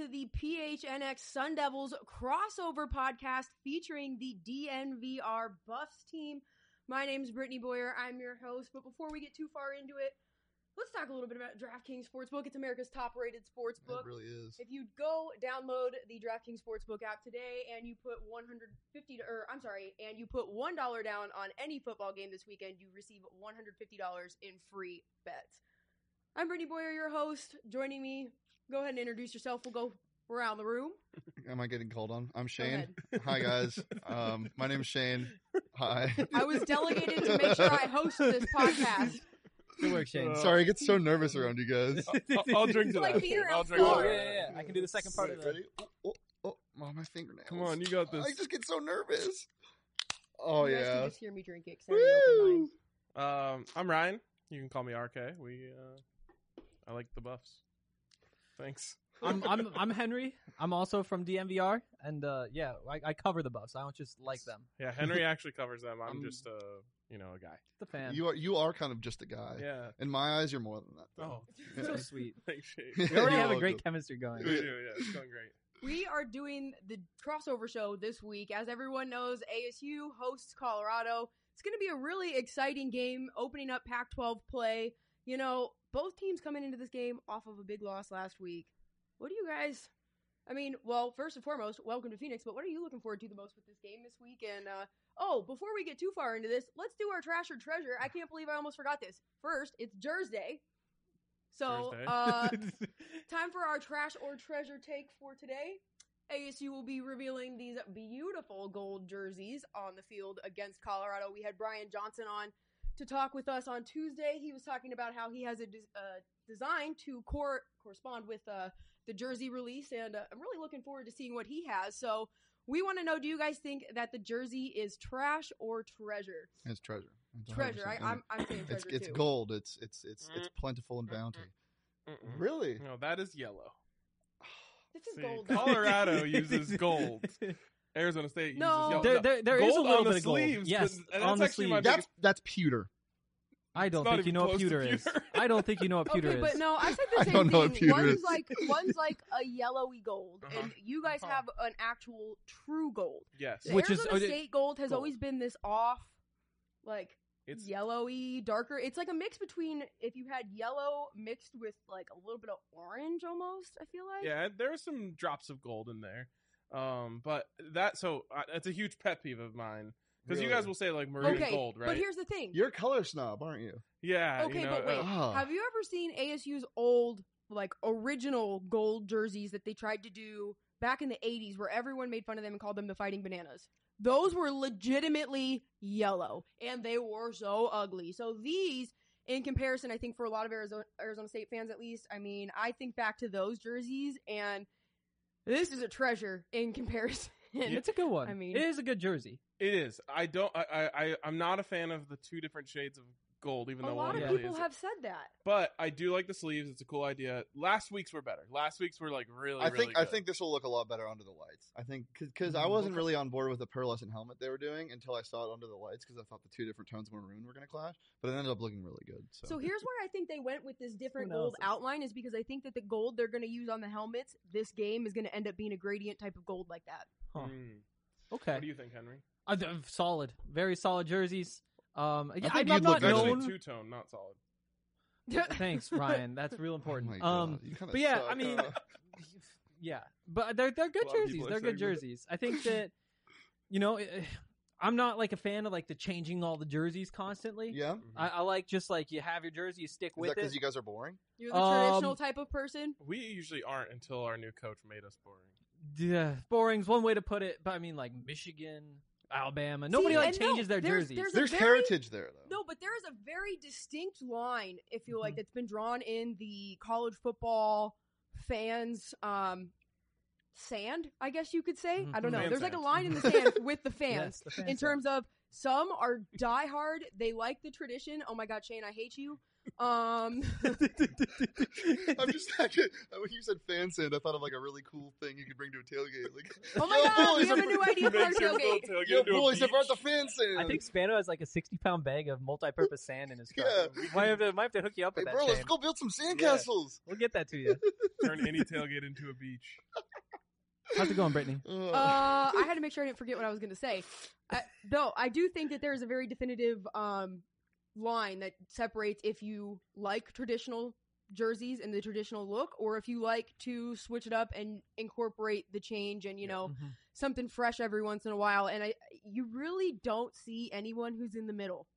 to the PHNX Sun Devils crossover podcast featuring the DNVR Buffs team. My name is Brittany Boyer. I'm your host. But before we get too far into it, let's talk a little bit about DraftKings Sportsbook. It's America's top-rated sportsbook. It really is. If you go download the DraftKings Sportsbook app today and you put you put $1 down on any football game this weekend, you receive $150 in free bets. I'm Brittany Boyer, your host. Joining me, go ahead and introduce yourself. We'll go around the room. Am I getting called on? I'm Shane. Hi, guys. My name is Shane. Hi. I was delegated to make sure I host this podcast. Good work, Shane. Sorry, I get so nervous around you guys. I'll drink to It's like that. being I'll around drink to floor. that. Yeah. I can do the second part of that. Ready? Oh, my fingernails. Come on, you got this. I just get so nervous. Oh, You guys can yeah. just hear me drink it. 'Cause I have an open Woo! mind. I'm Ryan. You can call me RK. I like the Buffs. Thanks. I'm Henry. I'm also from DNVR, and I cover the Buffs. I don't just like them. Yeah, Henry actually covers them. I'm I'm- just a guy. The fan. You are kind of just a guy. Yeah. In my eyes, you're more than that. Though. Oh, so sweet. thanks, Shane. We already You're have a great welcome. chemistry going. We do, yeah. It's going great. We are doing the crossover show this week. As everyone knows, ASU hosts Colorado. It's going to be a really exciting game, opening up Pac-12 play. You know, both teams coming into this game off of a big loss last week. What do you guys... first and foremost, welcome to Phoenix, but what are you looking forward to the most with this game this week? And, before we get too far into this, let's do our Trash or Treasure. I can't believe I almost forgot this. First, it's Jersey. So, Thursday. time for our Trash or Treasure take for today. ASU will be revealing these beautiful gold jerseys on the field against Colorado. We had Brian Johnson on to talk with us on Tuesday. He was talking about how he has a design to correspond with the jersey release, and I'm really looking forward to seeing what he has. So we want to know, do you guys think that the jersey is trash or treasure? It's treasure. It's Treasure. 100%. I'm saying treasure It's too. gold. It's plentiful in bounty. Mm-mm. Really? No, that is yellow. This is See, gold. Colorado uses gold. Arizona State No. uses yellow. There is a Gold little on the bit of gold. sleeves, Yes, but on the actually my sleeves. biggest- That's pewter. I don't It's not think you even know what close to pewter is. pewter. I don't think you know what pewter Okay, is. but no, I said I the don't same know what thing. pewter is. One's like a yellowy gold, Uh-huh. and you guys Uh-huh. have an actual true gold. Yes. The Which is- Arizona State gold has gold. always been this off, like It's yellowy, darker. It's like a mix between if you had yellow mixed with like a little bit of orange, almost. I feel like. Yeah, there are some drops of gold in there. But that's a huge pet peeve of mine. Because you Really? guys will say like maroon Okay, gold, right? but here's the thing. You're a color snob, aren't you? yeah. Okay, you know, but wait. Oh. Have you ever seen ASU's old, like, original gold jerseys that they tried to do back in the 80s where everyone made fun of them and called them the Fighting Bananas? Those were legitimately yellow, and they were so ugly. So these, in comparison, I think for a lot of Arizona State fans at least, I mean, I think back to those jerseys, and this is a treasure in comparison. It's a good one. I mean- it is a good jersey. It is. I'm not a fan of the two different shades of gold, even A though lot one of really people is. have said that. But I do like the sleeves. It's a cool idea. Last week's were better. Last week's were like really. I really think this will look a lot better under the lights. I think because I wasn't really on board with the pearlescent helmet they were doing until I saw it under the lights because I thought the two different tones of maroon were going to clash, but it ended up looking really good. So, So here's where I think they went with this different Who knows? gold outline is because I think that the gold they're going to use on the helmets this game is going to end up being a gradient type of gold like that. Huh. What Okay. do you think, Henry? Solid. Very solid jerseys. think I'm you'd not look Actually, known. two tone, not solid. Thanks, Ryan. That's real Oh important. my God, you kinda but yeah, suck, I mean, huh? yeah, but they're good A lot of people jerseys. are They're good saying that. jerseys. I think that I'm not like a fan of like the changing all the jerseys constantly. Yeah, I like just like you have your jersey, you stick is with that because it. you guys are boring? You're the traditional type of person. We usually aren't until our new coach made us boring. Yeah, boring's one way to put it, but I mean like Michigan, Alabama. Nobody See, like and no, changes their there's- jerseys. there's a There's very- heritage there, though. No, but there is a very distinct line, I feel like, Mhm. that's been drawn in the college football fans' sand, I guess you could say. Mhm. I don't know. Fan There's like a sand. line in the sand with the fans Yes, the fan in sand. terms of some are diehard. They like the tradition. Oh my God, Shane, I hate you. I'm just when you said fan sand, I thought of like a really cool thing you could bring to a tailgate. Like, Oh my yo, god, we boys, have a new idea for our Makes your little tailgate. tailgate yo, into a boys, I brought beach. the fan sand. I think Spano has like a 60-pound bag of multi-purpose sand in his truck. Yeah. Might have to hook you up Hey, with bro, that. let's Shane. go build some Yeah. sandcastles. We'll get that to you. Turn any tailgate into a beach. How's it going, Brittany? I had to make sure I didn't forget what I was going to say. Though I do think that there's a very definitive line that separates if you like traditional jerseys and the traditional look, or if you like to switch it up and incorporate the change and Mhm. something fresh every once in a while. And you really don't see anyone who's in the middle.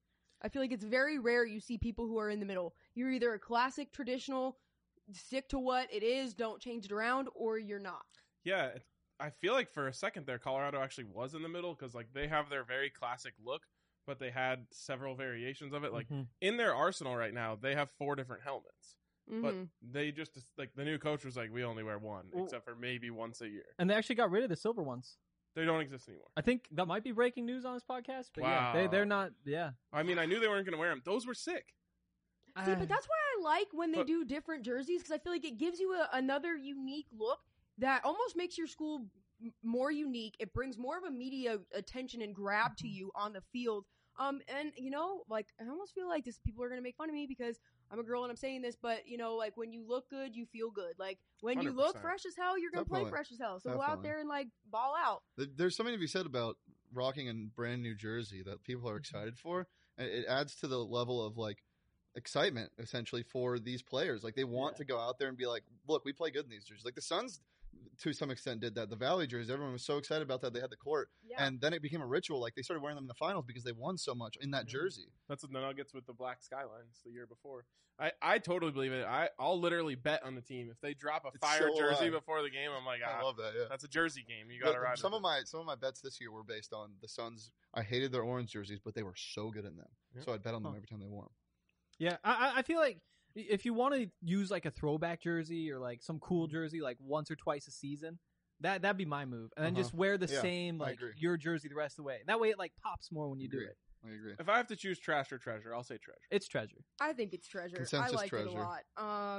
I feel like it's very rare you see people who are in the middle. You're either a classic traditional, stick to what it is, don't change it around, or you're not. Yeah, I feel like for a second there, Colorado actually was in the middle because like they have their very classic look, but they had several variations of it. Like Mhm. in their arsenal right now, they have 4 different helmets, but Mhm. they just like the new coach was like, we only wear one, Well- except for maybe once a year. And they actually got rid of the silver ones. They don't exist anymore. I think that might be breaking news on this podcast. But Wow. yeah, they're not. Yeah. I mean, I knew they weren't going to wear them. Those were sick. See, but that's why I like when they But- do different jerseys, because I feel like it gives you another unique look that almost makes your school more unique. It brings more of a media attention and grab to you on the field. And like I almost feel like people are gonna make fun of me because I'm a girl and I'm saying this, but like when you look good, you feel good. Like when you look 100%. fresh as hell, you're gonna play Definitely. fresh as hell. So go out Definitely. there and like ball out. There's something to be said about rocking a brand new jersey that people are excited for. And it adds to the level of like excitement essentially for these players. Like they want to go out there and be like, look, we play good in these jerseys. Like the Suns to some extent did that. The Valley jerseys, everyone was so excited about that they had the court. Yeah. And then it became a ritual. Like they started wearing them in the finals because they won so much in that jersey. That's what the Nuggets with the black skylines the year before. I totally believe it. I'll literally bet on the team if they drop a It's fire so jersey alive. before the game. I'm like, I love that. Yeah. that's a jersey game. You got to But ride. some with of my bets this year were based on the Suns. I hated their orange jerseys, but they were so good in them. Yeah. So I'd bet on them Huh. every time they wore them. Yeah, I feel like if you want to use like a throwback jersey or like some cool jersey like once or twice a season, that'd be my move. And then just wear the Yeah, same I like agree. your jersey the rest of the way. That way it like pops more when you do Agree. it. I agree. If I have to choose trash or treasure, I'll say treasure. It's treasure. I think it's treasure. Consensus I like it treasure. a lot.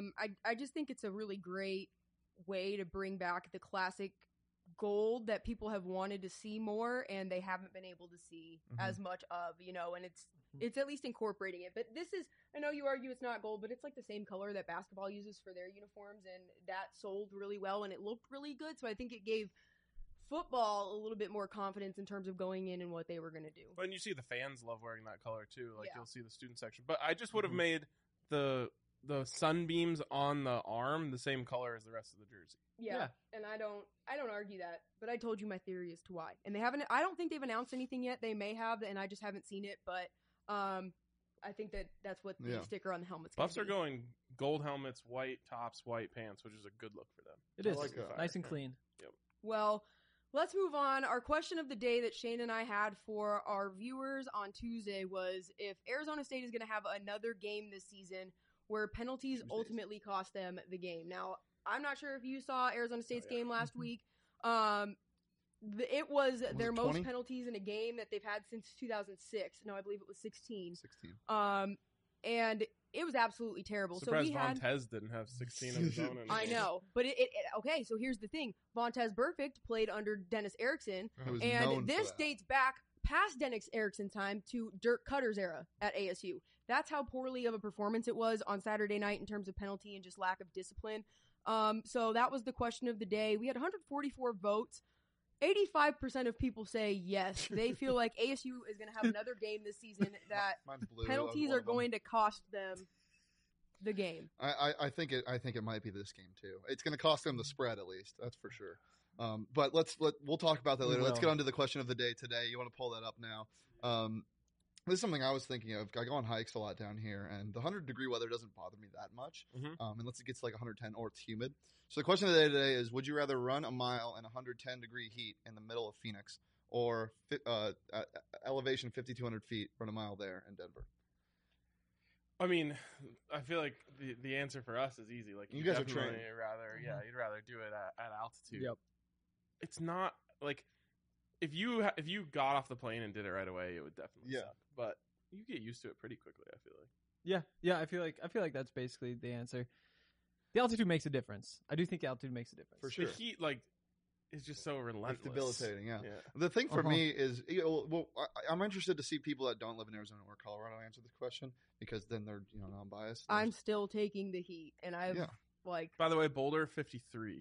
I just think it's a really great way to bring back the classic gold that people have wanted to see more and they haven't been able to see as much of, and it's at least incorporating it. But this is, I know you argue it's not gold, but it's like the same color that basketball uses for their uniforms, and that sold really well and it looked really good. So I think it gave football a little bit more confidence in terms of going in and what they were going to do. But you see the fans love wearing that color too. Like Yeah. you'll see the student section. But I just would have made the sunbeams on the arm the same color as the rest of the jersey. Yeah, and I don't argue that, but I told you my theory as to why. And they haven't. I don't think they've announced anything yet. They may have, and I just haven't seen it. But I think that's what the Yeah. sticker on the helmet's. Buffs gonna are be. going gold helmets, white tops, white pants, which is a good look for them. It I is like that. nice and clean. Well, let's move on. Our question of the day that Shane and I had for our viewers on Tuesday was if Arizona State is going to have another game this season where penalties Tuesdays. ultimately cost them the game. Now, I'm not sure if you saw Arizona State's yeah. game last week. It was their it most 20? penalties in a game that they've had since 2006. No, I believe it was 16. 16. And it was absolutely terrible. Surprised So we had. Vontez didn't have 16 of his own. I know, but okay. So here's the thing: Vontez Burfict played under Dennis Erickson, It was known and for this that. dates back past Dennis Erickson's time to Dirk Cutter's era at ASU. That's how poorly of a performance it was on Saturday night in terms of penalty and just lack of discipline. So that was the question of the day. We had 144 votes. 85% of people say yes. They feel like ASU is going to have another game this season that Mine's blue. penalties are going to cost them the game. I think it might be this game too. It's going to cost them the spread at least. That's for sure. But we'll talk about that We later. Let's will. get on to the question of the day today. You want to pull that up now? This is something I was thinking of. I go on hikes a lot down here, and the 100-degree weather doesn't bother me that much, unless it gets to like 110 or it's humid. So the question of the day today is: would you rather run a mile in 110-degree heat in the middle of Phoenix, or elevation 5,200 feet, run a mile there in Denver? I mean, I feel like the answer for us is easy. Like You guys are definitely trained. You'd rather do it at altitude. Yep. It's not like if you got off the plane and did it right away, it would definitely Yeah. suck. But you get used to it pretty quickly. I feel like. Yeah. I feel like that's basically the answer. The altitude makes a difference. I do think the altitude makes a difference. For sure. The heat, like, is just so relentless. It's debilitating, yeah. Yeah. The thing for Uh-huh. me is, I'm interested to see people that don't live in Arizona or Colorado answer this question because then they're non-biased. I'm still taking the heat, and I've Yeah. like By the way, Boulder 5,300.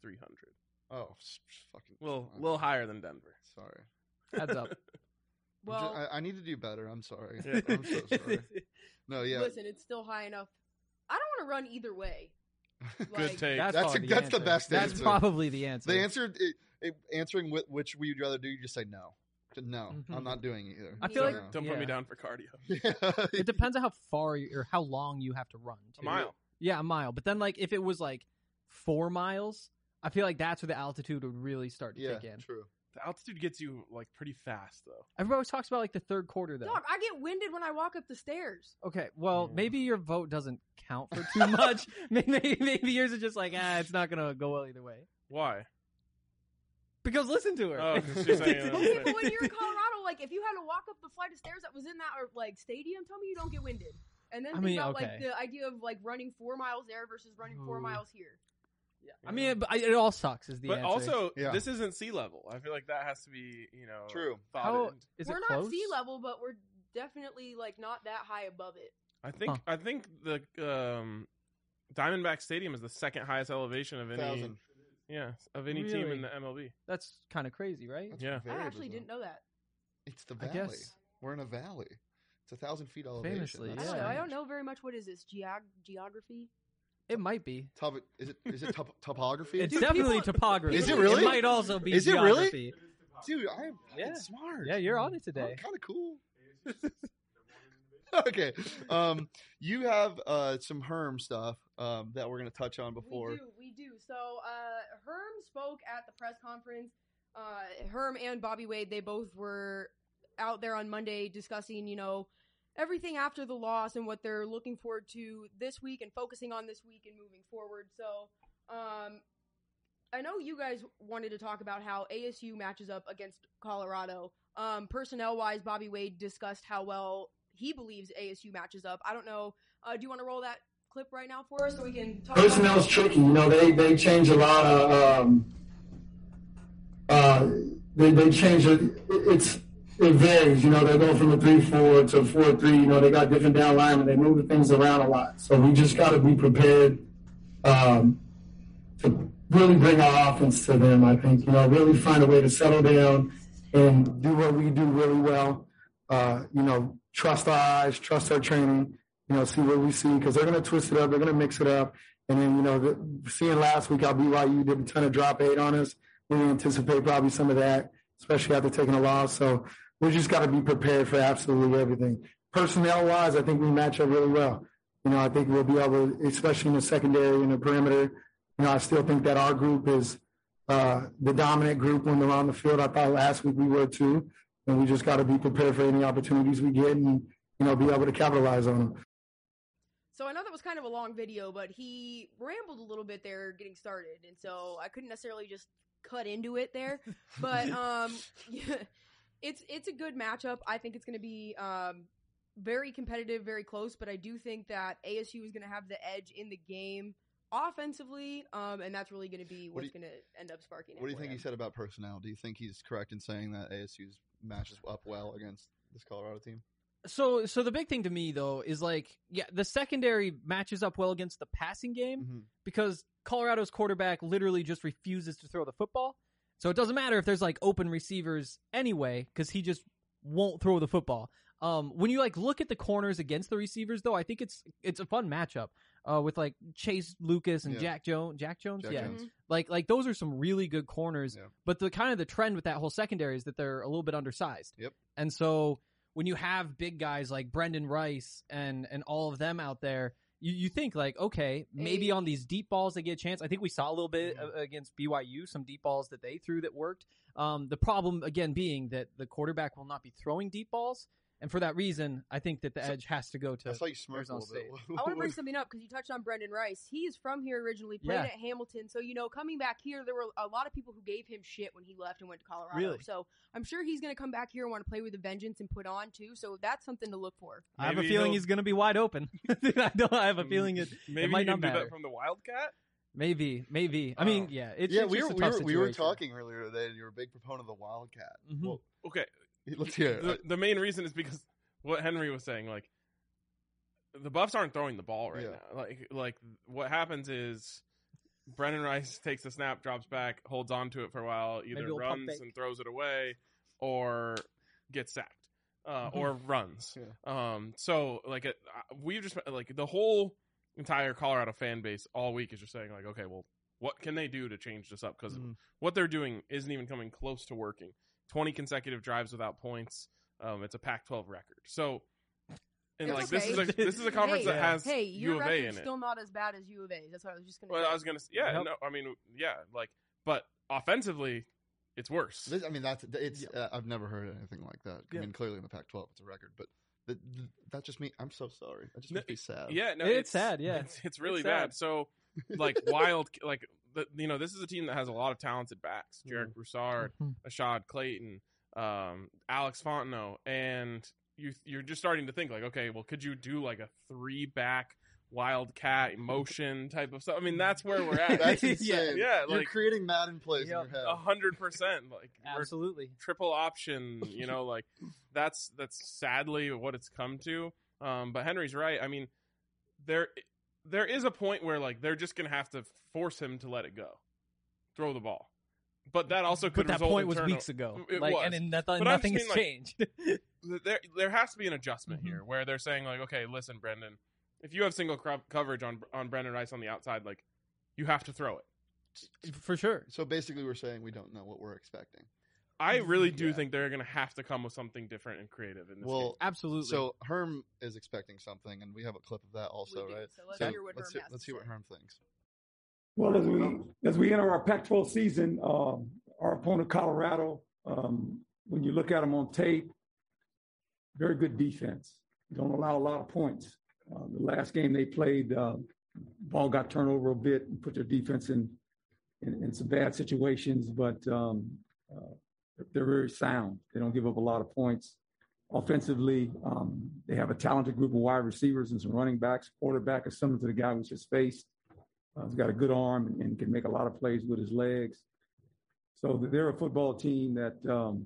Fucking Little higher than Denver. Sorry. Heads up. well. I need to do better. I'm sorry. Yeah. I'm so sorry. No, yeah. Listen, it's still high enough. I don't want to run either way. Good Like, take. That's That's probably the answer. best That's answer. probably the answer. The answer, answering which would you rather do, you just say no. No, Mhm. I'm not doing it either. I feel like- No. Don't put Yeah. me down for cardio. It depends on how far or how long you have to run. A too. mile. Yeah, a mile. But then, like, if it was like 4 miles, I feel like that's where the altitude would really start to Yeah, kick in. true. The altitude gets you like pretty fast though. Everybody always talks about like the third quarter, though. dog, I get winded when I walk up the stairs. Okay, well, Yeah. maybe your vote doesn't count for too much. maybe yours is just like, it's not gonna go well either way. Why? Because listen to her. Oh, 'cause she's saying Okay, but when you're in Colorado, like if you had to walk up the flight of stairs that was in that like stadium, tell me you don't get winded. And then I think mean, about okay. like the idea of like running 4 miles there versus running 4 Ooh. miles here. I mean, it all sucks. Is the But answer. also, Yeah. this isn't sea level. I feel like that has to be, True. thought how in. is We're it not close? sea level, but we're definitely like not that high above it. I think the Diamondback Stadium is the second highest elevation of any 1,000. of any team Really? in the MLB. That's kind of crazy, right? That's Yeah. very I actually bizarre. didn't know that. It's the I valley. guess. We're in a valley. It's 1,000 feet elevation. Famously, That's I don't know. I strange. don't know very much. What is this geography? It might be. Is it topography? It's Dude, definitely people- topography. Is it really? It might also be Is it really? geography. Dude, I am Yeah. smart. Yeah, you're on it today. Kind of cool. Okay. You have some Herm stuff that we're going to touch on before. We do. So, Herm spoke at the press conference. Herm and Bobby Wade, they both were out there on Monday discussing, everything after the loss and what they're looking forward to this week and focusing on this week and moving forward. So, I know you guys wanted to talk about how ASU matches up against Colorado. Personnel-wise, Bobby Wade discussed how well he believes ASU matches up. I don't know. Do you want to roll that clip right now for us so we can talk Personnel's about tricky. They change a lot of. They change it. It varies. They go from a 3-4 to a 4-3. They got different down linemen. They move things around a lot. So we just got to be prepared to really bring our offense to them. I think really find a way to settle down and do what we do really well. Trust our eyes, trust our training. See what we see because they're going to twist it up. They're going to mix it up. And then, seeing last week how BYU did a ton of drop 8 on us, we anticipate probably some of that, especially after taking a loss. So we just got to be prepared for absolutely everything. Personnel-wise, I think we match up really well. I think we'll be able to, especially in the secondary and the perimeter, I still think that our group is the dominant group when they're on the field. I thought last week we were too. And we just got to be prepared for any opportunities we get and, be able to capitalize on them. So I know that was kind of a long video, but he rambled a little bit there getting started, and so I couldn't necessarily just cut into it there. But yeah, it's a good matchup. I think it's going to be very competitive, very close. But I do think that ASU is going to have the edge in the game offensively, and that's really going to be what's going to end up sparking it. What do you for think them. he said about personnel? Do you think he's correct in saying that ASU's matches up well against this Colorado team? So the big thing to me though is the secondary matches up well against the passing game Mm-hmm. because Colorado's quarterback literally just refuses to throw the football. So it doesn't matter if there's open receivers anyway because he just won't throw the football. When you look at the corners against the receivers though, I think it's a fun matchup with Chase Lucas and Yeah. Jack Jones. Yeah. Jones. Like those are some really good corners. Yeah. But the kind of the trend with that whole secondary is that they're a little bit undersized. Yep. And so when you have big guys like Brendan Rice and all of them out there, you think okay, maybe on these deep balls they get a chance. I think we saw a little bit against BYU, some deep balls that they threw that worked. The problem again being that the quarterback will not be throwing deep balls. And for that reason, I think that the edge has to go to I saw you smirk a Arizona little bit. State. I want to bring something up because you touched on Brendan Rice. He is from here originally, played Yeah. at Hamilton. So, coming back here, there were a lot of people who gave him shit when he left and went to Colorado. Really? So I'm sure he's going to come back here and want to play with a vengeance and put on, too. So that's something to look for. I have a Maybe feeling he'll- he's going to be wide open. I have a feeling it Maybe might he not can do matter. that from the Wildcat. Maybe. I Oh. mean, yeah. It's we just were, a tough we were situation. talking earlier today, and you're a big proponent of the Wildcat. Mhm. Well, Okay, let's hear it. the main reason is because what Henry was saying, like the Buffs aren't throwing the ball right Yeah. now. Like what happens is Brendan Rice takes a snap, drops back, holds on to it for a while, either Maybe he'll pump runs fake. and throws it away, or gets sacked, Mm-hmm. or runs. Yeah. So like we've just like the whole entire Colorado fan base all week is just saying like, okay, well, what can they do to change this up? Because Mhm. what they're doing isn't even coming close to working. 20 consecutive drives without points. It's a Pac-12 record. So, and It's like okay. this is a conference Hey, that has Hey, U your of A record's in it. still not as bad as U of A's. That's what I was just going to Well, say. I was gonna, yeah, Yep. no, I mean, yeah, like, but offensively, it's worse. I've never heard anything like that. Yeah. I mean, clearly in the Pac-12, it's a record, but that just me. I'm so sorry. That just No, makes me sad. Yeah, no, It's sad, yeah. it's really It's bad. sad. So, like, this is a team that has a lot of talented backs: Jarek Broussard, Mhm. Ashad Clayton, Alex Fontenot, and you're just starting to think like, okay, well, could you do like a 3-back Wildcat motion type of stuff? I mean, that's where we're at. That's insane. Yeah, You're like creating Madden plays Yep. in your head. 100%. Like we're Absolutely. triple option, like that's sadly what it's come to. But Henry's right. I mean, there is a point where like they're just gonna have to force him to let it go, throw the ball. But that also could But that result point in was turnover. weeks ago. It like, was. and then But I'm nothing just has being, like, changed. There has to be an adjustment Mhm. here where they're saying like, okay, listen, Brendan, if you have single coverage on Brendan Rice on the outside, like you have to throw it. For sure. So basically, we're saying we don't know what we're expecting. I really do Yeah. think they're going to have to come with something different and creative in this game. Well, Absolutely. so Herm is expecting something, and we have a clip of that also, We do, right? so let's hear what let's Herm has let's to see what say. Herm thinks. Well, as we enter our Pac-12 season, our opponent Colorado, when you look at them on tape, very good defense. Don't allow a lot of points. The last game they played, ball got turned over a bit and put their defense in some bad situations, but they're very sound. They don't give up a lot of points. Offensively, they have a talented group of wide receivers and some running backs. Quarterback is similar to the guy we just faced. He's got a good arm and can make a lot of plays with his legs. So they're a football team that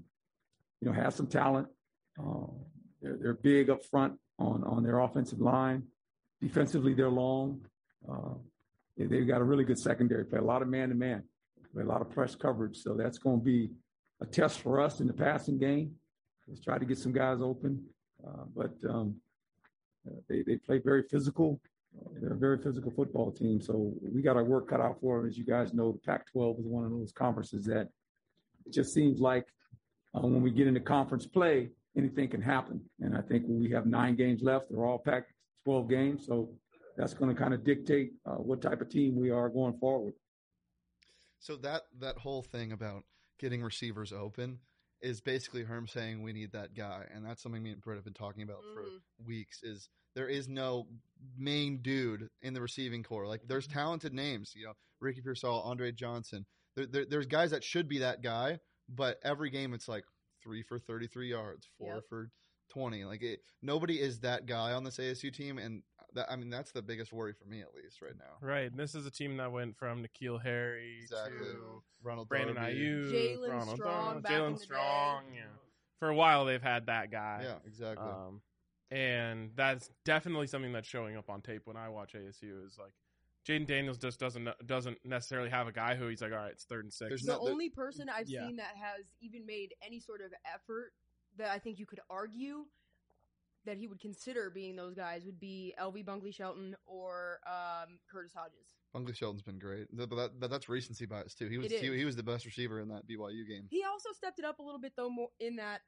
has some talent. They're big up front on their offensive line. Defensively, they're long. They've got a really good secondary play, a lot of man-to-man, a lot of press coverage. So that's going to be a test for us in the passing game. Let's try to get some guys open. But they play very physical. They're a very physical football team. So we got our work cut out for them. As you guys know, the Pac-12 is one of those conferences that it just seems like when we get into conference play, anything can happen. And I think when we have 9 games left, they're all Pac-12 games. So that's going to kind of dictate what type of team we are going forward. So that whole thing about getting receivers open is basically Herm saying we need that guy, and that's something me and Britt have been talking about for weeks. Is there is no main dude in the receiving core. Like there's talented names, Ricky Pearsall, Andre Johnson. There's guys that should be that guy, but every game it's like 3 for 33 yards, 4 for 20. Like nobody is that guy on this ASU team, and that's the biggest worry for me at least right now. Right, and this is a team that went from N'Keal Harry to Ronald Brandon Darby. Ayuk, Jalen Ronald Strong Darby, back in Jalen the Strong. day. Yeah, for a while they've had that guy. Yeah, exactly. And that's definitely something that's showing up on tape when I watch ASU. Is like Jaden Daniels just doesn't necessarily have a guy who he's like, all right, it's 3rd and 6. There's The not the- only person I've Yeah. seen that has even made any sort of effort that I think you could argue that he would consider being those guys would be LV Bunkley Shelton or Curtis Hodges. Bunkley Shelton's been great, but that's recency bias too. He was It is. he was the best receiver in that BYU game. He also stepped it up a little bit though more in that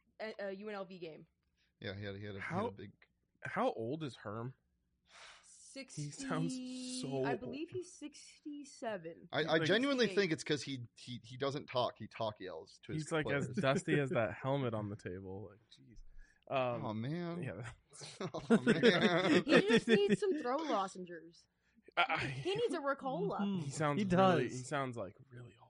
UNLV game. Yeah, he had a How- big. How old is Herm? 60. He sounds so I old. believe he's 67. I like genuinely 68. think it's because he doesn't talk. He talk yells to his He's like players. as dusty as that helmet on the table. Like, jeez. Oh man. Yeah. Oh, man. He just needs some throw lozenges. He needs a Ricola. Mhm. He sounds. He Really, does. he sounds like really old.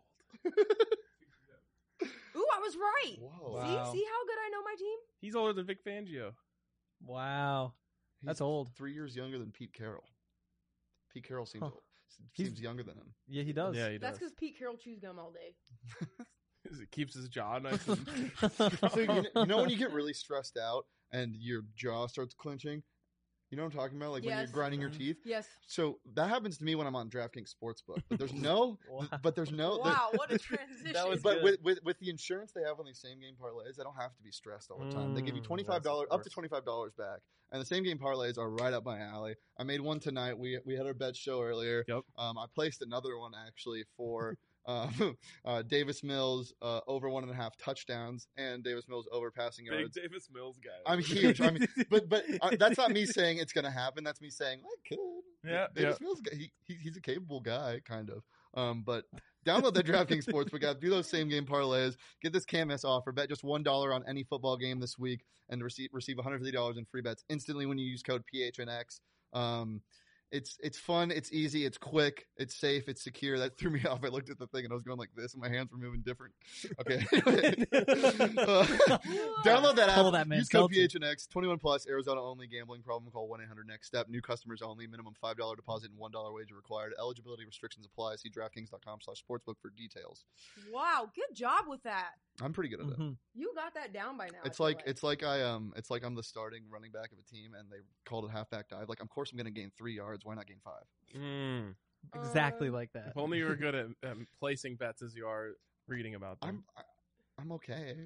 Ooh, I was right. Whoa. Wow. See how good I know my team? He's older than Vic Fangio. Wow. That's He's old. 3 years younger than Pete Carroll. Pete Carroll seems Huh. seems younger than him. Yeah, he does. Yeah, he That's does. because Pete Carroll chews gum all day. It keeps his jaw nice. And So you know when you get really stressed out and your jaw starts clenching? You know what I'm talking about? Like when you're Yes. grinding your teeth? Yes. So that happens to me when I'm on DraftKings Sportsbook. But there's no Wow, what a transition. That was But good. with the insurance they have on these same game parlays, I don't have to be stressed all the time. They give you That's $25 up to worse. $25 back, and the same game parlays are right up my alley. I made one tonight. We had our bet show earlier. Yep. I placed another one actually for Davis Mills over 1.5 touchdowns and Davis Mills over passing Big yards. Davis Mills guy. I'm huge. I mean, but that's not me saying it's going to happen. That's me saying I could. Yeah, Davis Mills, he's a capable guy, kind of. But download the DraftKings Sportsbook app, do those same game parlays, get this can't miss offer, bet just $1 on any football game this week, and receive $150 in free bets instantly when you use code PHNX. It's fun, it's easy, it's quick, it's safe, it's secure. That threw me off. I looked at the thing and I was going like this, and my hands were moving different. Okay. Download that app. Pull that, man. Use code Culture. PHNX. 21 plus. Arizona only. Gambling problem? Call 1-800-NEXT-STEP. New customers only. Minimum $5 deposit and $1 wager required. Eligibility restrictions apply. See DraftKings.com/sportsbook for details. Wow, good job with that. I'm pretty good at it. Mhm. You got that down by now. I It's feel like I'm the starting running back of a team, and they called it halfback dive. Like, of course I'm going to gain 3 yards. Why not gain 5? Exactly like that. If only you were good at placing bets as you are reading about them. I'm okay.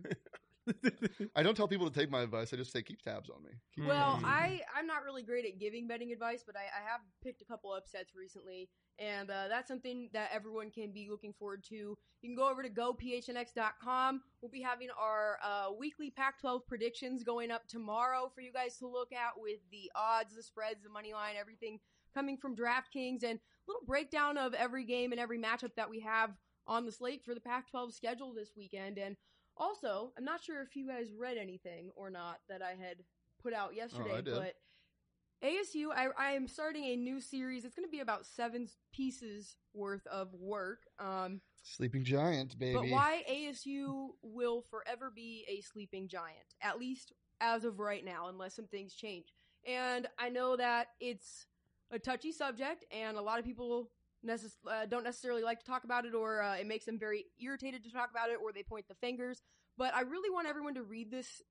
I don't tell people to take my advice. I just say keep tabs on me. Keep Well, tabs on me. I'm not really great at giving betting advice, but I have picked a couple upsets recently, and that's something that everyone can be looking forward to. You can go over to gophnx.com. We'll be having our weekly Pac-12 predictions going up tomorrow for you guys to look at with the odds, the spreads, the money line, everything coming from DraftKings, and a little breakdown of every game and every matchup that we have on the slate for the Pac-12 schedule this weekend. And also, I'm not sure if you guys read anything or not that I had put out yesterday, I did. but ASU, I am starting a new series. It's going to be about 7 pieces worth of work. Sleeping Giant, baby. But why ASU will forever be a sleeping giant, at least as of right now, unless some things change. And I know that it's a touchy subject, and a lot of people don't necessarily like to talk about it, or it makes them very irritated to talk about it, or they point the fingers. But I really want everyone to read this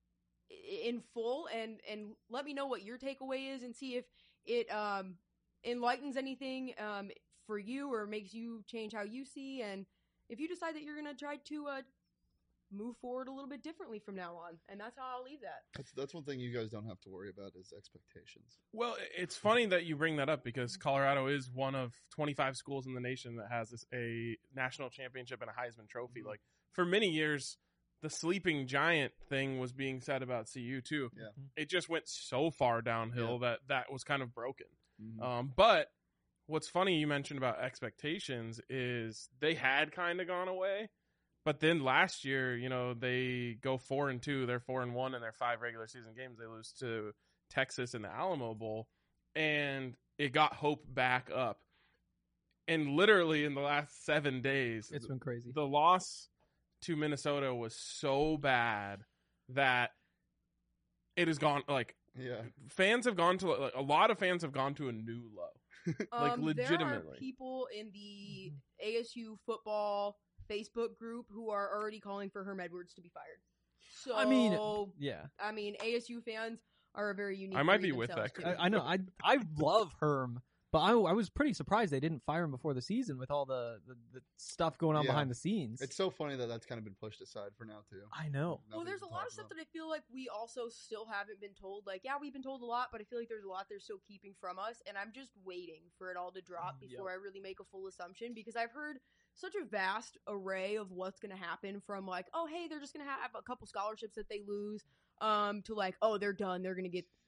in full and let me know what your takeaway is, and see if it enlightens anything for you or makes you change how you see, and if you decide that you're going to try to move forward a little bit differently from now on. And that's how I'll leave that. That's one thing you guys don't have to worry about is expectations. Well, it's funny that you bring that up because Colorado is one of 25 schools in the nation that has a national championship and a Heisman Trophy. Like, for many years, the sleeping giant thing was being said about CU too. Yeah. It just went so far downhill that was kind of broken. Mhm. But what's funny you mentioned about expectations is they had kind of gone away. But then last year, you know, they go 4-2. They're 4-1 in their 5 regular season games. They lose to Texas in the Alamo Bowl, and it got hope back up. And literally in the last 7 days, It's been crazy. the loss to Minnesota was so bad that it has gone, like, Yeah. fans have gone to, like, a lot of fans have gone to a new low. Like, There legitimately. are people in the ASU football Facebook group who are already calling for Herm Edwards to be fired. So I mean, yeah. ASU fans are a very unique. I might breed be with themselves, that too. I know. I love Herm, but I was pretty surprised they didn't fire him before the season with all the stuff going on Yeah. behind the scenes. It's so funny that that's kind of been pushed aside for now too. I know. Well, there's a lot of stuff that I feel like we also still haven't been told. Like, yeah, we've been told a lot, but I feel like there's a lot they're still keeping from us, and I'm just waiting for it all to drop before I really make a full assumption, because I've heard such a vast array of what's going to happen, from like, oh, hey, they're just going to have a couple scholarships that they lose, to like, oh, they're done. They're going to get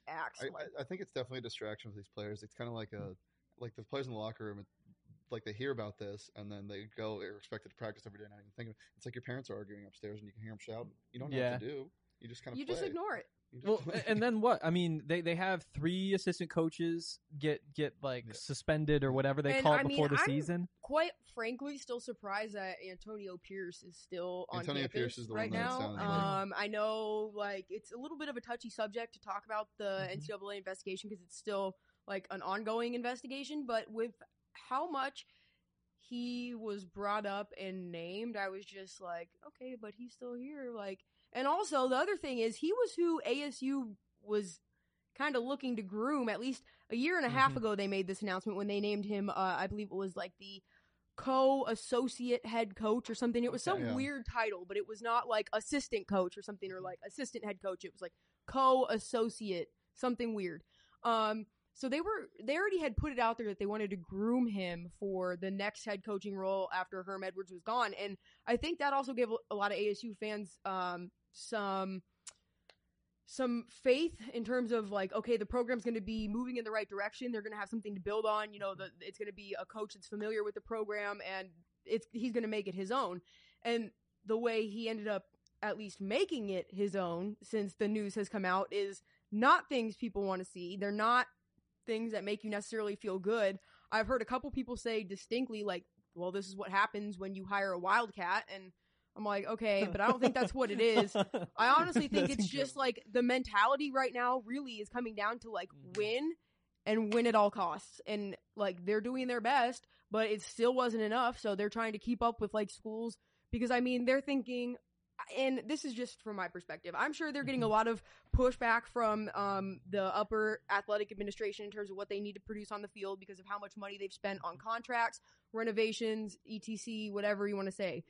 acts. I think it's definitely a distraction for these players. It's kind of like the players in the locker room. Like they hear about this and then they go. They're expected to practice every day. Not even think of it. It's like your parents are arguing upstairs and you can hear them shout. You don't know what to do. You just kind of just ignore it. Well, and then what? I mean, they have 3 assistant coaches get like suspended or whatever they call it before the season. Quite frankly, still surprised that Antonio Pierce is still on Antonio campus Pierce is the right one that now. sounds like. I know, like it's a little bit of a touchy subject to talk about the NCAA investigation because it's still like an ongoing investigation. But with how much he was brought up and named, I was just like, okay, but he's still here, like. And also, the other thing is, he was who ASU was kind of looking to groom. At least a year and a half ago, they made this announcement when they named him, I believe it was like the co-associate head coach or something. It was some weird title, but it was not like assistant coach or something or like assistant head coach. It was like co-associate, something weird. So they already had put it out there that they wanted to groom him for the next head coaching role after Herm Edwards was gone. And I think that also gave a lot of ASU fans some faith in terms of like, okay, the program's going to be moving in the right direction. They're going to have something to build on. You know, it's going to be a coach that's familiar with the program and he's going to make it his own. And the way he ended up at least making it his own since the news has come out is not things people want to see. They're not things that make you necessarily feel good. I've heard a couple people say distinctly like, well, this is what happens when you hire a wildcat. And I'm like, okay, but I don't think that's what it is. I honestly think it's just like the mentality right now really is coming down to like win and win at all costs. And like they're doing their best, but it still wasn't enough. So they're trying to keep up with like schools because I mean, they're thinking, and this is just from my perspective, I'm sure they're getting a lot of pushback from the upper athletic administration in terms of what they need to produce on the field because of how much money they've spent on contracts, renovations, etc., whatever you want to say.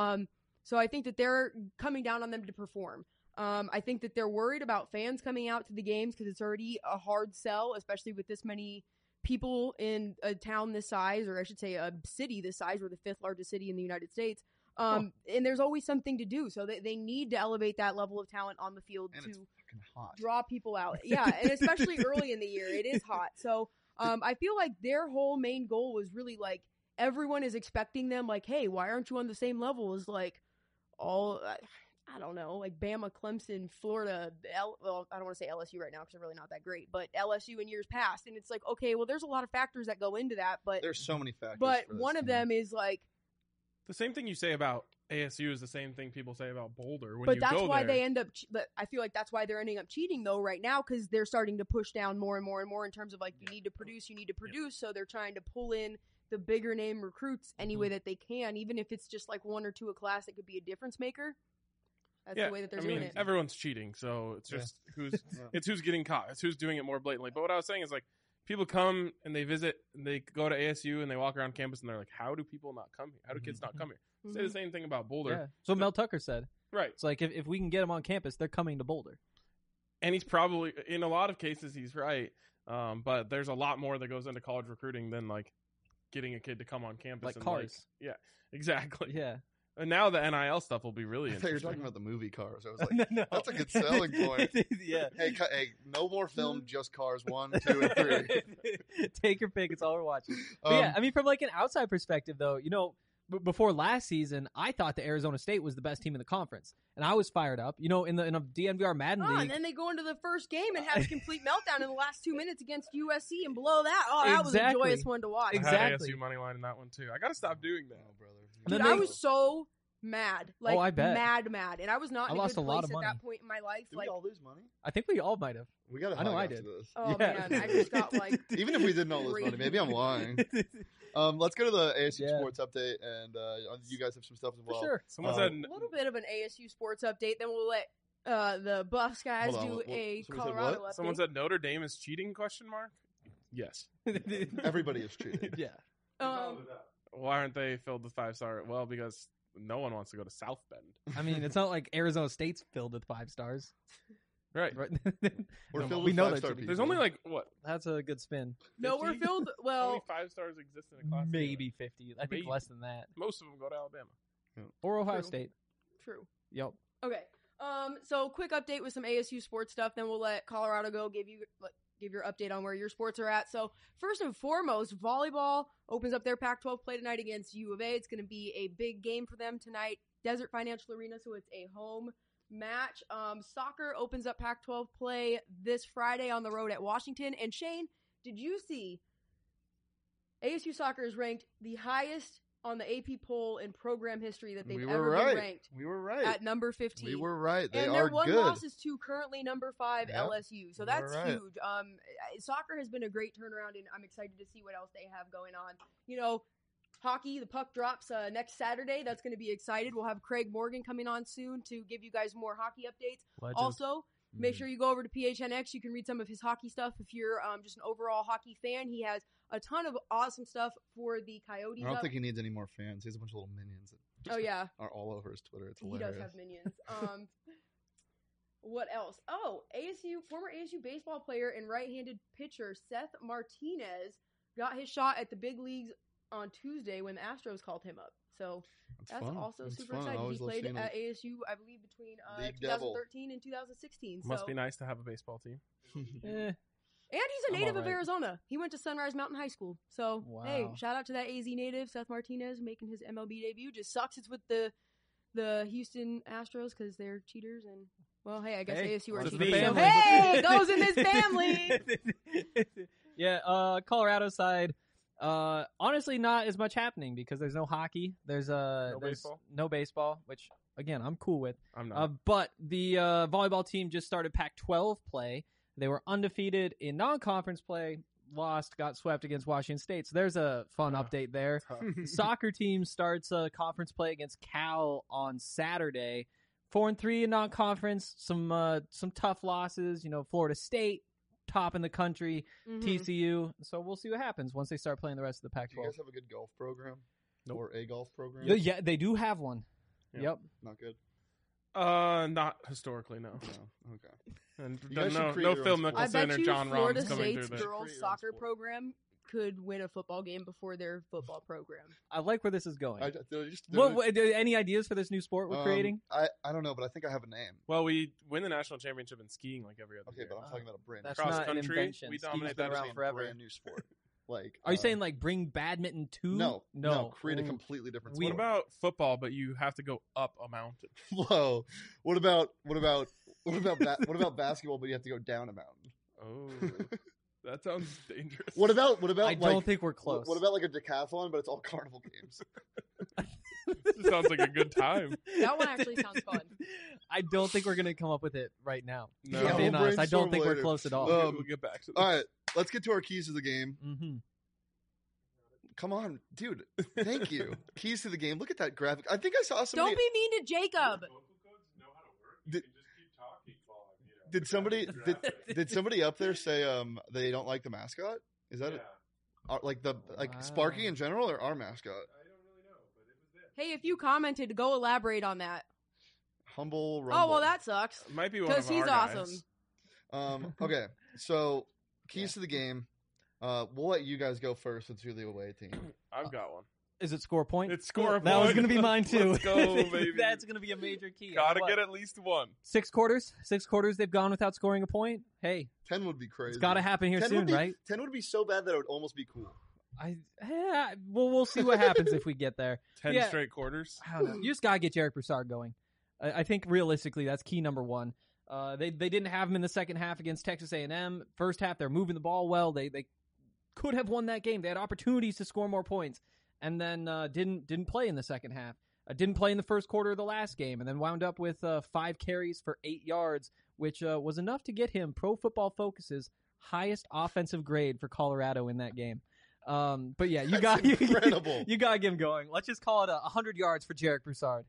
So I think that they're coming down on them to perform. I think that they're worried about fans coming out to the games because it's already a hard sell, especially with this many people in a town this size, or I should say a city this size. We're the 5th largest city in the United States. And there's always something to do. So they need to elevate that level of talent on the field and to it's fucking hot. Draw people out. Yeah, and especially early in the year. It is hot. So I feel like their whole main goal was really like everyone is expecting them like, hey, why aren't you on the same level as like all, I don't know, like Bama, Clemson, Florida, well, I don't want to say LSU right now because they're really not that great, but LSU in years past. And it's like, okay, well, there's a lot of factors that go into that, but there's so many factors. But one of them is like, the same thing you say about ASU is the same thing people say about Boulder. But that's why they end up. I feel like that's why they're ending up cheating though right now because they're starting to push down more and more and more in terms of like you need to produce. So they're trying to pull in the bigger name recruits any way that they can, even if it's just like 1 or 2 a class that could be a difference maker. That's the way that they're doing it. Everyone's cheating, so it's just who's getting caught. It's who's doing it more blatantly. But what I was saying is like people come and they visit and they go to ASU and they walk around campus and they're like, how do people not come here? How do kids not come here? Say the same thing about Boulder. Yeah. So Mel Tucker said. Right. It's like if we can get them on campus, they're coming to Boulder. And he's probably, in a lot of cases, he's right. But there's a lot more that goes into college recruiting than like getting a kid to come on campus. Like and Cars. Yeah, exactly. Yeah. And now the NIL stuff will be really interesting. I thought you were talking about the movie Cars. I was like, no. That's a good selling point. Yeah. Hey, no more film, just Cars 1, 2, and 3. Take your pick. It's all we're watching. But yeah, I mean, from like an outside perspective, though, you know, before last season, I thought that Arizona State was the best team in the conference, and I was fired up. You know, in a DNVR Madden league, and then they go into the first game and have a complete meltdown in the last 2 minutes against USC and blow that. Oh, that was a joyous one to watch. I had ASU money line in that one too. I got to stop doing that, brother. Dude, I was so mad, like I bet. mad, and I was not in a good place at that point in my life. Did we all lose money? I think we all might have. We got. I know I did. This. Oh man, I just got like. Even if we didn't all lose money, maybe I'm lying. Let's go to the ASU sports update, and you guys have some stuff as well. For sure. Someone said a little bit of an ASU sports update. Then we'll let the Buffs guys do a Colorado update. Someone said Notre Dame is cheating? ? Yes. Everybody is cheating. Yeah. Why aren't they filled with 5-star? Well, because no one wants to go to South Bend. I mean, it's not like Arizona State's filled with 5 stars. Right. We're filled we with know 5-star people. There's only like, what? That's a good spin. No, we're filled. How Well, many 5 stars exist in a class? Maybe 50. I think Maybe. less than that. Most of them go to Alabama. Or Ohio True. State. True. Yep. Okay. So quick update with some ASU sports stuff, then we'll let Colorado go give your update on where your sports are at. So first and foremost, volleyball opens up their Pac-12 play tonight against U of A. It's going to be a big game for them tonight. Desert Financial Arena, so it's a home match. Soccer opens up Pac-12 play this Friday on the road at Washington. And Shane, did you see ASU soccer is ranked the highest on the AP poll in program history that they've ever been ranked? We were right. At number 15. We were right. They and are their one good. loss is to currently number 5 Yep. LSU. So You that's were right. huge. Soccer has been a great turnaround, and I'm excited to see what else they have going on. You know, hockey, the puck drops next Saturday. That's going to be excited. We'll have Craig Morgan coming on soon to give you guys more hockey updates. Legend. Also, make sure you go over to PHNX. You can read some of his hockey stuff if you're just an overall hockey fan. He has a ton of awesome stuff for the Coyotes. I don't think he needs any more fans. He has a bunch of little minions that Oh, yeah. are all over his Twitter. It's He hilarious. does have minions. What else? Oh, former ASU baseball player and right-handed pitcher Seth Martinez got his shot at the big leagues on Tuesday when the Astros called him up. So that's fun. also That's super fun. I exciting. He always love played seeing at it. ASU, I believe, between Big Devil. 2013 and 2016. Must so. be nice to have a baseball team. Eh, And he's a I'm native of alright. Arizona. He went to Sunrise Mountain High School. So, hey, Wow. shout out to that AZ native, Seth Martinez, making his MLB debut. Just sucks it's with the Houston Astros because they're cheaters. And, well, hey, I guess Hey, ASU are goes in cheaters. the So, family. hey, it goes in this family. yeah, Colorado side. Honestly, not as much happening because there's no hockey. There's baseball? no baseball, which again I'm cool with. I'm not. But the volleyball team just started Pac-12 play. They were undefeated in non-conference play. Lost, got swept against Washington State. So there's a fun update there. Soccer team starts conference play against Cal on Saturday. 4-3 in non-conference. Some tough losses. You know, Florida State, top in the country. Mhm. TCU. So we'll see what happens once they start playing the rest of the Do you Pac-12. guys have a good golf program? Nope. Or a golf program? Yeah, they do have one. Yeah. Yep. Not good. Not historically, no. No. Okay. And You guys should create no your Phil own sport. I Mickelson bet or you John Florida Rahm's coming State's through there. girls Create your own soccer sport. program could win a football game before their football program. I like where this is going. Any ideas for this new sport we're creating? I don't know, but I think I have a name. Well, we win the national championship in skiing like every other Okay, year. but I'm talking about a brand. That's Cross not an country, invention. we Skiing's dominate been that around scene. forever. Brand new sport. Like, Are you saying like bring badminton to? no? Create a Ooh. completely different. What sport. about football? But you have to go up a mountain. Whoa? What about basketball? But you have to go down a mountain. Oh, that sounds dangerous. What about? I don't think we're close. What about like a decathlon, but it's all carnival games? This sounds like a good time. That one actually sounds fun. I don't think we're gonna come up with it right now. No. If I'm being we'll honest, I don't brainstorm think we're later. close at all. We'll get back to this. All right, let's get to our keys to the game. Mm-hmm. Come on, dude. Thank you. Keys to the game. Look at that graphic. I think I saw somebody. Don't be mean to Jacob. Did somebody did somebody up there say they don't like the mascot? Is that Sparky in general or our mascot? Hey, if you commented, go elaborate on that. Humble Rumble. Oh, well, that sucks. Might be one of Because he's our guys. awesome. Okay, so keys to the game. We'll let you guys go first since you're the away team. I've got one. Is it score point? It's score a That was point. going to be mine too. Let's go, baby. That's going to be a major key. Gotta What? get at least one. 6 quarters. 6 quarters they've gone without scoring a point. Hey, 10 would be crazy. it's got to happen here 10 soon, would be, right? 10 would be so bad that it would almost be cool. We'll see what happens if we get there. 10 Yeah. straight quarters. I don't know. You just gotta get Jarek Broussard going. I think realistically that's key number one. They didn't have him in the second half against Texas A&M. First half they're moving the ball well. They could have won that game. They had opportunities to score more points, and then didn't play in the second half. Didn't play in the first quarter of the last game, and then wound up with 5 carries for 8 yards, which was enough to get him Pro Football Focus's highest offensive grade for Colorado in that game. But yeah, you got incredible. you gotta get him going. Let's just call it 100 yards for Jarek Broussard.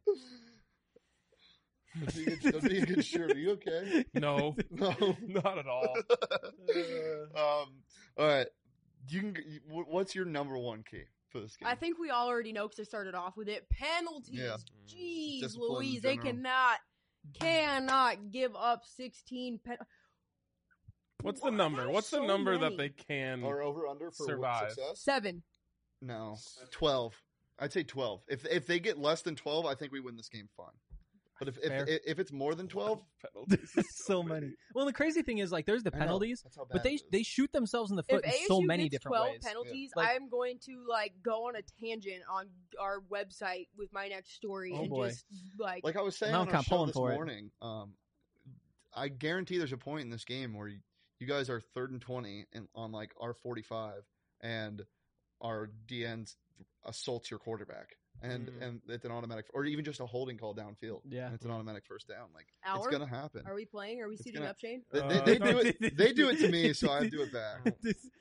That'd be a good shirt. Are you okay? No, No. not at all. All right. What's your number one key for this game? I think we all already know because I started off with it. Penalties. Yeah. Jeez, Discipline in Louise. They general. cannot give up 16 What's the number? What's the So number that many. they can? Or over under for Survive. success? 7. No, 12. I'd say 12. If they get less than 12, I think we win this game fine. But Fair. if it's more than 12, penalties. So many. Well, the crazy thing is, like, there's the I know, penalties, that's how bad but it is. they shoot themselves in the If foot in ASU so many gets different 12 ways. penalties, Like- I'm going to like go on a tangent on our website with my next story Oh, and boy. just like Like I was saying Now on I'm our kinda show pulling this for it. morning, I guarantee there's a point in this game where you guys are 3rd and 20 on like our 45, and our DN assaults your quarterback, and it's an automatic, or even just a holding call downfield. Yeah. and it's an automatic first down. Like Our? it's gonna happen. Are we playing? Are we It's suiting gonna- up, Shane? They do it. They do it to me, so I do it back.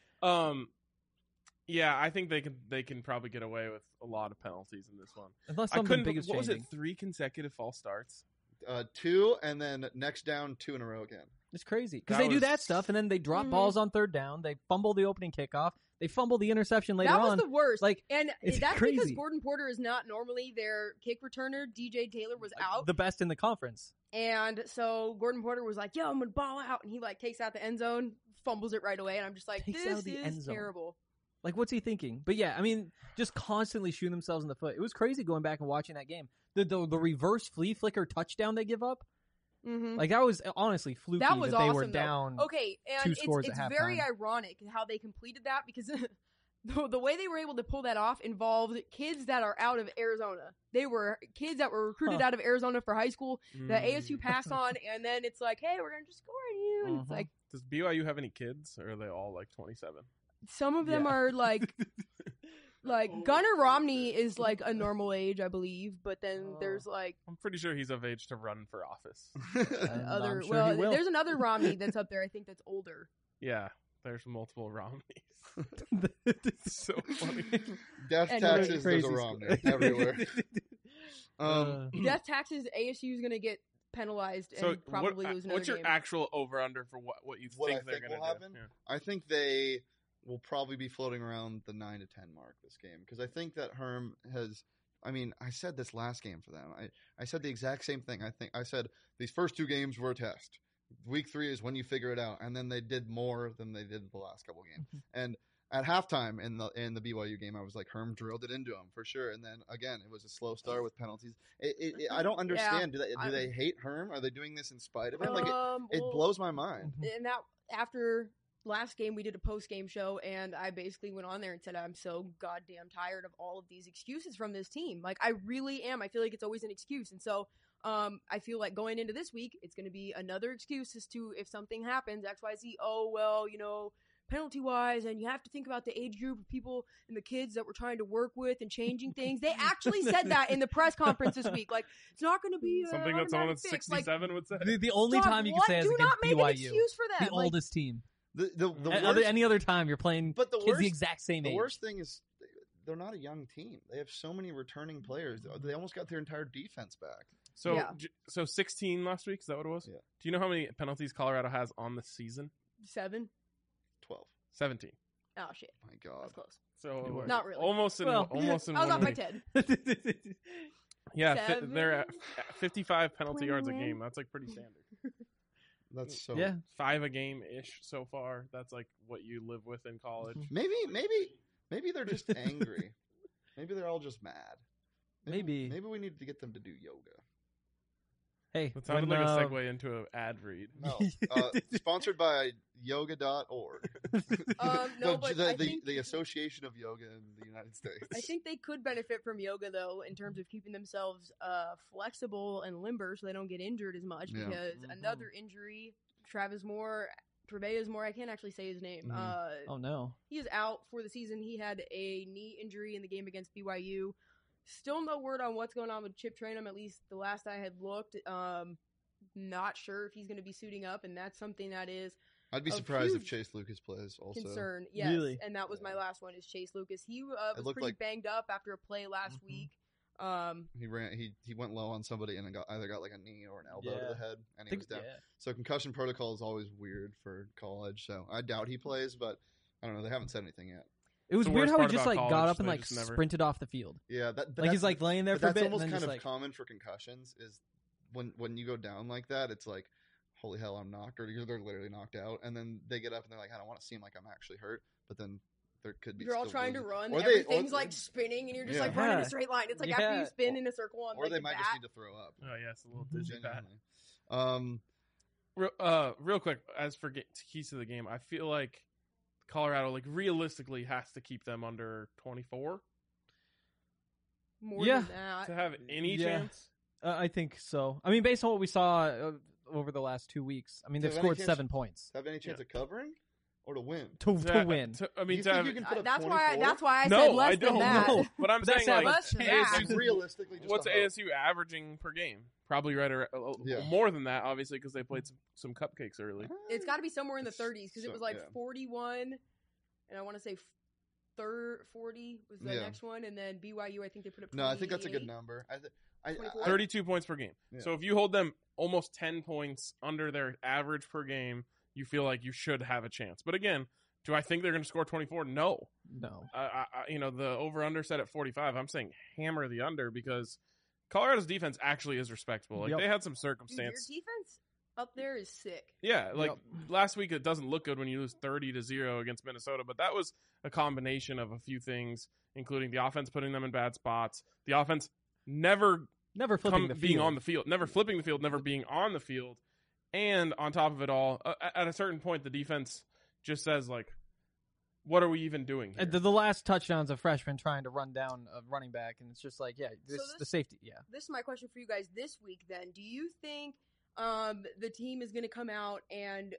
Yeah, I think they can probably get away with a lot of penalties in this one. Unless I something couldn't. big is What was it? changing. 3 consecutive false starts. 2, and then next down 2 in a row again. It's crazy because That they do was- that stuff, and then they drop Mhm. balls on 3rd down. They fumble the opening kickoff. They fumble the interception later That was on. the worst. Like, and it's that's crazy. because Gordon Porter is not normally their kick returner. DJ Taylor was out, the best in the conference. and so Gordon Porter was like, "Yo, I'm gonna ball out," and he like takes out the end zone, fumbles it right away, and I'm just like, Takes out "This the end is zone. terrible." Like, what's he thinking? But yeah, I mean, just constantly shooting themselves in the foot. It was crazy going back and watching that game. The reverse flea flicker touchdown they give up, Mm-hmm. like that was honestly fluky That was they were awesome, though. down. Okay, and 2 scores it's at very halftime. ironic how they completed that because the way they were able to pull that off involved kids that are out of Arizona. They were kids that were recruited Huh. out of Arizona for high school that Mm. ASU passed on, and then it's like, hey, we're gonna just score on you, and it's Mhm. like Does BYU have any kids, or are they all like 27? some of them Yeah. are like Gunnar Romney is like a normal age, I believe, but then Oh. there's like I'm pretty sure he's of age to run for office. And other I'm sure he will. there's another Romney that's up there, I think, that's older. Yeah, there's multiple Romneys. so funny. Death And taxes. There's Crazy a stuff. Romney everywhere. Death taxes, ASU is gonna get penalized and So probably lose another what's your game. actual over under for what you What I think they're think going will to do? happen? Yeah. I think they will probably be floating around the 9 to 10 mark this game because I think that Herm has. I mean, I said this last game for them. I said the exact same thing. I said these first 2 games were a test. Week 3 is when you figure it out, and then they did more than they did the last couple games. And at halftime in the BYU game, I was like, Herm drilled it into him for sure. And then again, it was a slow start with penalties. I don't understand. Do they hate Herm? Are they doing this in spite of him? Like it well, blows my mind. And that after last game, we did a post game show, and I basically went on there and said, I'm so goddamn tired of all of these excuses from this team. Like, I really am. I feel like it's always an excuse. And so I feel like going into this week, it's going to be another excuse as to if something happens, XYZ, oh, well, penalty wise, and you have to think about the age group of people and the kids that we're trying to work with and changing things. They actually said that in the press conference this week. Like, it's not going to be Something that someone automatic that's fix. Like, 67 would say. The only dog, time you can what? say is do against not make BYU, an excuse for that. the Like, oldest team. The Other, worst, any other time you're playing but the kids worst, the exact same the age. worst thing is they're not a young team. They have so many returning players. They almost got their entire defense back. So Yeah. so 16 last week. Is that what it was? Yeah. Do you know how many penalties Colorado has on the season? 7. 12. 17. Oh shit, My that's God. close. So Not really. Almost in Well, almost in I was one off by week. 10. Yeah, Seven. they're at 55 penalty yards a 21. game. That's like pretty standard. That's so. Yeah. 5 a game ish so far. That's like what you live with in college. Maybe they're just angry. Maybe they're all just mad. Maybe. Maybe we need to get them to do yoga. Hey, That sounded when, like a segue into an ad read. No. Sponsored by yoga.org. No, but I think the Association of Yoga in the United States. I think they could benefit from yoga though, in terms of keeping themselves flexible and limber, so they don't get injured as much. Yeah. Because another injury, Treveas Moore, I can't actually say his name. Oh no. He is out for the season. He had a knee injury in the game against BYU. Still no word on what's going on with Chip Trainum, at least the last I had looked. Not sure if he's going to be suiting up, and that's something that is I'd be a surprised if huge Chase Lucas plays also. concern. Yes, Really? and that was my last one is Chase Lucas. He was looked pretty like- banged up after a play last Mhm. week. He went low on somebody and either got like a knee or an elbow to Yeah. the head and he was down. Yeah. So concussion protocol is always weird for college. So I doubt he plays, but I don't know. They haven't said anything yet. It was The weird worst how he part just about like got college, up and they like just never- sprinted off the field. Yeah, but Like he's like laying there but for a that's bit and almost then kind just of like common for concussions. Is when you go down like that, it's like, holy hell, I'm knocked, or they're literally knocked out, and then they get up and they're like, I don't want to seem like I'm actually hurt, but then there could be. You're all still trying to losing. run. Or they- Everything's or- like spinning, and you're just Yeah. like running Yeah. a straight line. It's like Yeah. after you spin in a circle on Or like they the might bat. just need to throw up. Oh yeah, it's a little dizzy bat. Genuinely. Real quick, as for keys to the game, I feel like Colorado, like realistically, has to keep them under 24 More Yeah. than that. to have any Yeah. chance. I think so. I mean, based on what we saw over the last 2 weeks, I mean, Do they've you have any scored chance- 7 points Have any chance of covering or to win? to To- win. I mean, You to think have, you can put up That's 24? why I no, said less I don't than that. know. But I'm That's saying how like less than that. ASU's, Like, realistically, just what's a hope. ASU averaging per game? Probably right around Yeah. more than that, obviously, because they played some cupcakes early. It's got to be somewhere in the 30s because it So- was like yeah. 41, and I want to say 40 was the Yeah. next one, and then BYU I think they put up. No, I think that's a good 28. number. 24? 32 points per game. Yeah. So if you hold them almost 10 points under their average per game, you feel like you should have a chance. But again, do I think they're going to score 24? No. No. The over-under set at 45. I'm saying hammer the under because Colorado's defense actually is respectable. Like Yep. they had some Dude, your circumstance. defense up there is sick. Yeah, like last week, it doesn't look good when you lose 30-0 against Minnesota, but that was a combination of a few things, including the offense putting them in bad spots, the offense never Never flipping the being field. on the field, never flipping the field, never being on the field, and on top of it all, at a certain point, the defense just says like, "What are we even doing here?" And the last touchdown's a freshman trying to run down a running back, and it's just like, yeah, this- the safety, yeah. This is my question for you guys this week. Then, do you think the team is going to come out and,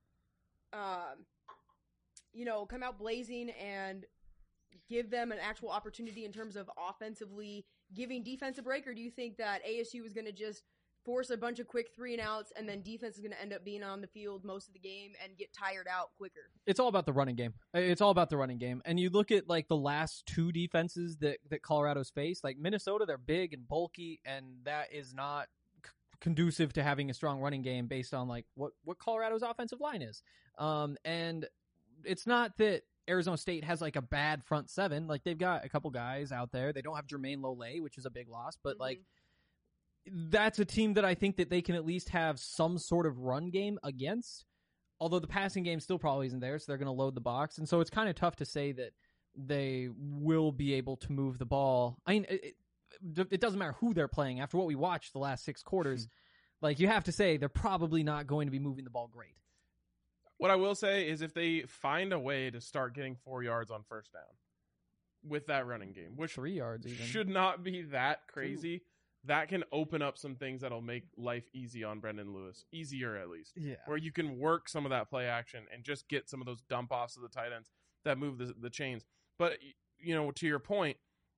come out blazing and give them an actual opportunity in terms of offensively giving defense a break, or do you think that ASU is going to just force a bunch of quick 3-and-outs and then defense is going to end up being on the field most of the game and get tired out quicker? It's all about the running game. It's all about the running game. And you look at like the last 2 defenses that Colorado's faced, like Minnesota, they're big and bulky, and that is not conducive to having a strong running game based on like what Colorado's offensive line is. And it's not that Arizona State has like a bad front 7. Like they've got a couple guys out there. They don't have Jermaine Lole, which is a big loss, but like that's a team that I think that they can at least have some sort of run game against. Although the passing game still probably isn't there, so they're going to load the box. And so it's kind of tough to say that they will be able to move the ball. I mean, it doesn't matter who they're playing. After what we watched the last 6 quarters, like you have to say they're probably not going to be moving the ball great. What I will say is if they find a way to start getting 4 yards on first down with that running game, which 3 yards even. should not be that crazy, that can open up some things that'll make life easy on Brendan Lewis. Easier, at least. Yeah. Where you can work some of that play action and just get some of those dump offs of the tight ends that move the chains. But, to your point,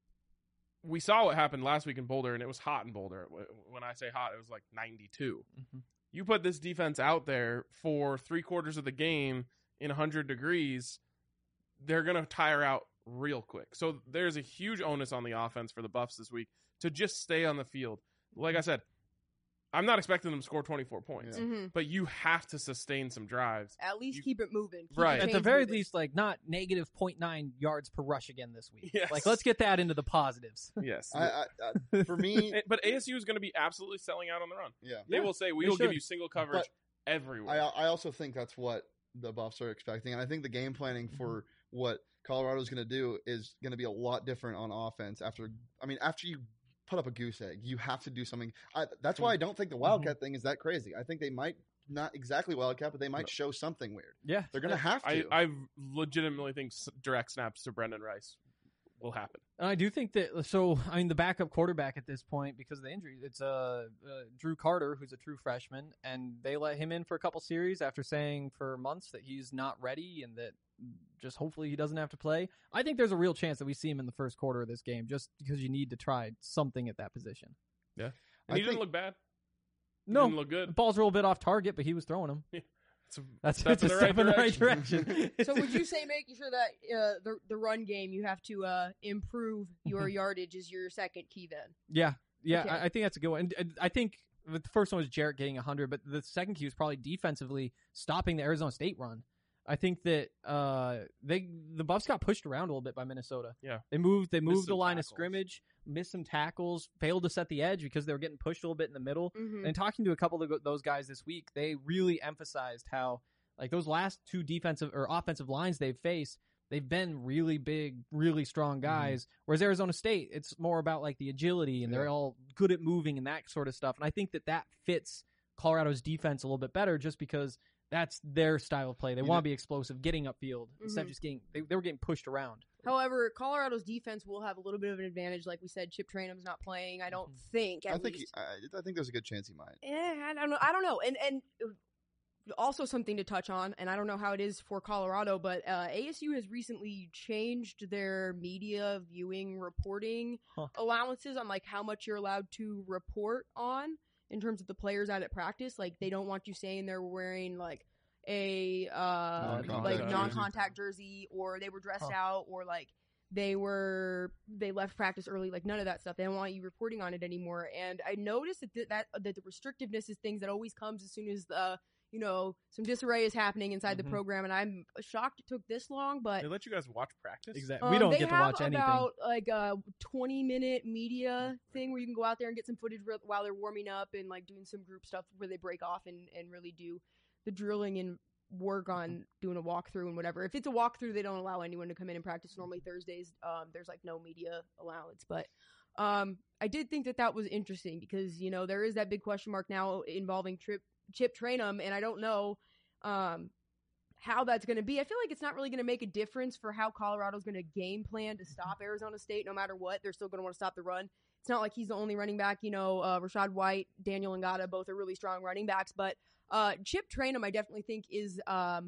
we saw what happened last week in Boulder, and it was hot in Boulder. When I say hot, it was like 92. Mm-hmm. You put this defense out there for 3/4 of the game in 100 degrees, they're going to tire out real quick. So there's a huge onus on the offense for the Buffs this week to just stay on the field. Like I said, I'm not expecting them to score 24 points, but you have to sustain some drives. At least keep it moving. Keep Right. the At the chains very moving. least, like not negative 0.9 yards per rush again this week. Yes. Like let's get that into the positives. Yes. For me, But ASU is going to be absolutely selling out on the run. yeah. They will say, we will give should. you single coverage everywhere. I also think that's what the Buffs are expecting, and I think the game planning for what Colorado's going to do is going to be a lot different on offense. After you put up a goose egg, you have to do something. That's why I don't think the Wildcat thing is that crazy. I think they might not exactly Wildcat, but they might show something weird. Yeah. They're going to have to. I legitimately think direct snaps to Brendan Rice will happen. And I do think that, so, I mean, the backup quarterback at this point, because of the injury, it's Drew Carter, who's a true freshman, and they let him in for a couple series after saying for months that he's not ready and that just hopefully he doesn't have to play. I think there's a real chance that we see him in the first quarter of this game just because you need to try something at that position. Yeah. And he didn't look bad. He No, didn't look good. the balls were a little bit off target, but he was throwing them. That's step it's a step in the right direction. So would you say making sure that the run game you have to improve your yardage is your second key then? Yeah, Okay. I think that's a good one. And I think the first one was Jarrett getting 100, but the second key was probably defensively stopping the Arizona State run. I think that the Buffs got pushed around a little bit by Minnesota. Yeah. They moved the some line of tackles. scrimmage, missed some tackles, failed to set the edge because they were getting pushed a little bit in the middle. Mhm. And talking to a couple of those guys this week, they really emphasized how like those last 2 defensive or offensive lines they've faced, they've been really big, really strong guys. Whereas Arizona State, it's more about like the agility, and they're all good at moving and that sort of stuff. And I think that fits Colorado's defense a little bit better, just because that's their style of play. They want to be explosive, getting upfield instead of just getting. They were getting pushed around. However, Colorado's defense will have a little bit of an advantage. Like we said, Chip Trainum's not playing. I don't think. I think there's a good chance he might. I don't know. And also something to touch on, and I don't know how it is for Colorado, but ASU has recently changed their media viewing reporting allowances on like how much you're allowed to report on in terms of the players out at practice. Like they don't want you saying they're wearing like a non-contact jersey, or they were dressed out, or like they left practice early. Like none of that stuff. They don't want you reporting on it anymore. And I noticed that the restrictiveness is things that always comes as soon as the some disarray is happening inside the program, and I'm shocked it took this long. But they let you guys watch practice? Exactly. We don't get to watch anything. They have about like a 20-minute media thing where you can go out there and get some footage while they're warming up and like doing some group stuff where they break off and really do the drilling and work on doing a walkthrough and whatever. If it's a walkthrough, they don't allow anyone to come in and practice. Normally Thursdays, there's like no media allowance. But I did think that was interesting because, there is that big question mark now involving Chip Trainum, and I don't know how that's going to be. I feel like it's not really going to make a difference for how Colorado's going to game plan to stop Arizona State. No matter what, they're still going to want to stop the run. It's not like he's the only running back. Rashad White, Daniel Ngata, both are really strong running backs. But Chip Trainum, I definitely think, is that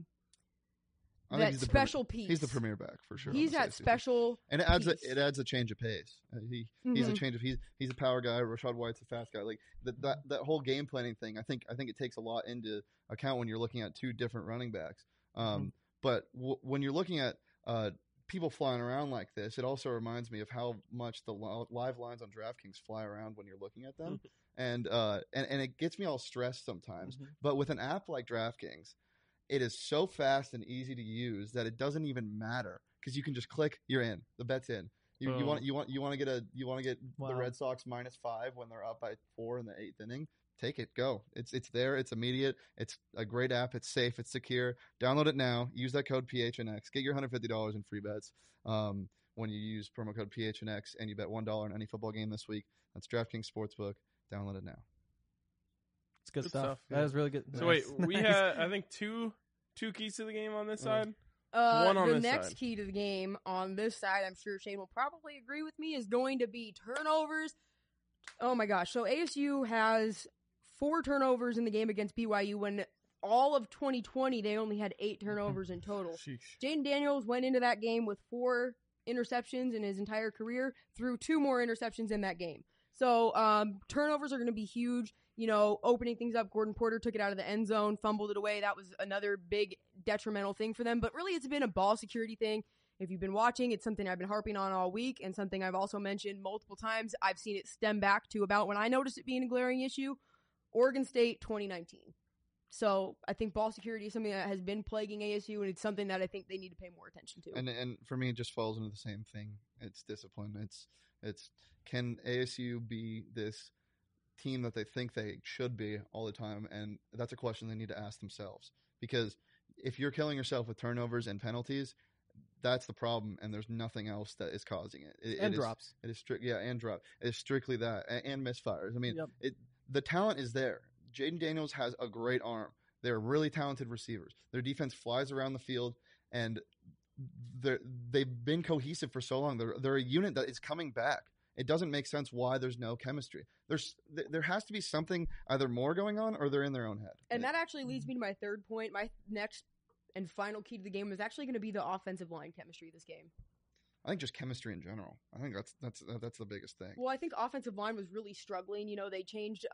special piece. He's the premier back for sure. He's that special, and it adds a change of pace. He's a change of he's a power guy. Rashad White's a fast guy. Like that whole game planning thing. I think it takes a lot into account when you're looking at two different running backs. But when you're looking at people flying around like this, it also reminds me of how much the live lines on DraftKings fly around when you're looking at them, and it gets me all stressed sometimes. But with an app like DraftKings, it is so fast and easy to use that it doesn't even matter because you can just click, you're in, the bet's in. You want to get the Red Sox -5 when they're up by 4 in the 8th inning. Take it, go. It's there. It's immediate. It's a great app. It's safe. It's secure. Download it now. Use that code PHNX. Get your $150 in free bets when you use promo code PHNX and you bet $1 on any football game this week. That's DraftKings Sportsbook. Download it now. It's good stuff. That is really good. So wait, we had I think two keys to the game on this side. One on the next side. Key to the game on this side, I'm sure Shane will probably agree with me, is going to be turnovers. Oh my gosh! So ASU has 4 turnovers in the game against BYU when all of 2020 they only had 8 turnovers in total. Jaden Daniels went into that game with 4 interceptions in his entire career, threw 2 more interceptions in that game. So turnovers are going to be huge. Opening things up, Gordon Porter took it out of the end zone, fumbled it away. That was another big detrimental thing for them. But really, it's been a ball security thing. If you've been watching, it's something I've been harping on all week and something I've also mentioned multiple times. I've seen it stem back to about when I noticed it being a glaring issue, Oregon State 2019. So I think ball security is something that has been plaguing ASU, and it's something that I think they need to pay more attention to. And for me, it just falls into the same thing. It's discipline. It's can ASU be this team that they think they should be all the time? And that's a question they need to ask themselves. Because if you're killing yourself with turnovers and penalties, that's the problem, and there's nothing else that is causing it. And drops. It is and drop. It is strictly that, and misfires. I mean, the talent is there. Jaden Daniels has a great arm. They're really talented receivers. Their defense flies around the field, and they've been cohesive for so long. They're a unit that is coming back. It doesn't make sense why there's no chemistry. There has to be something either more going on or they're in their own head. And that actually leads me to my third point. My next and final key to the game is actually going to be the offensive line chemistry this game. I think just chemistry in general. I think that's the biggest thing. Well, I think offensive line was really struggling. They changed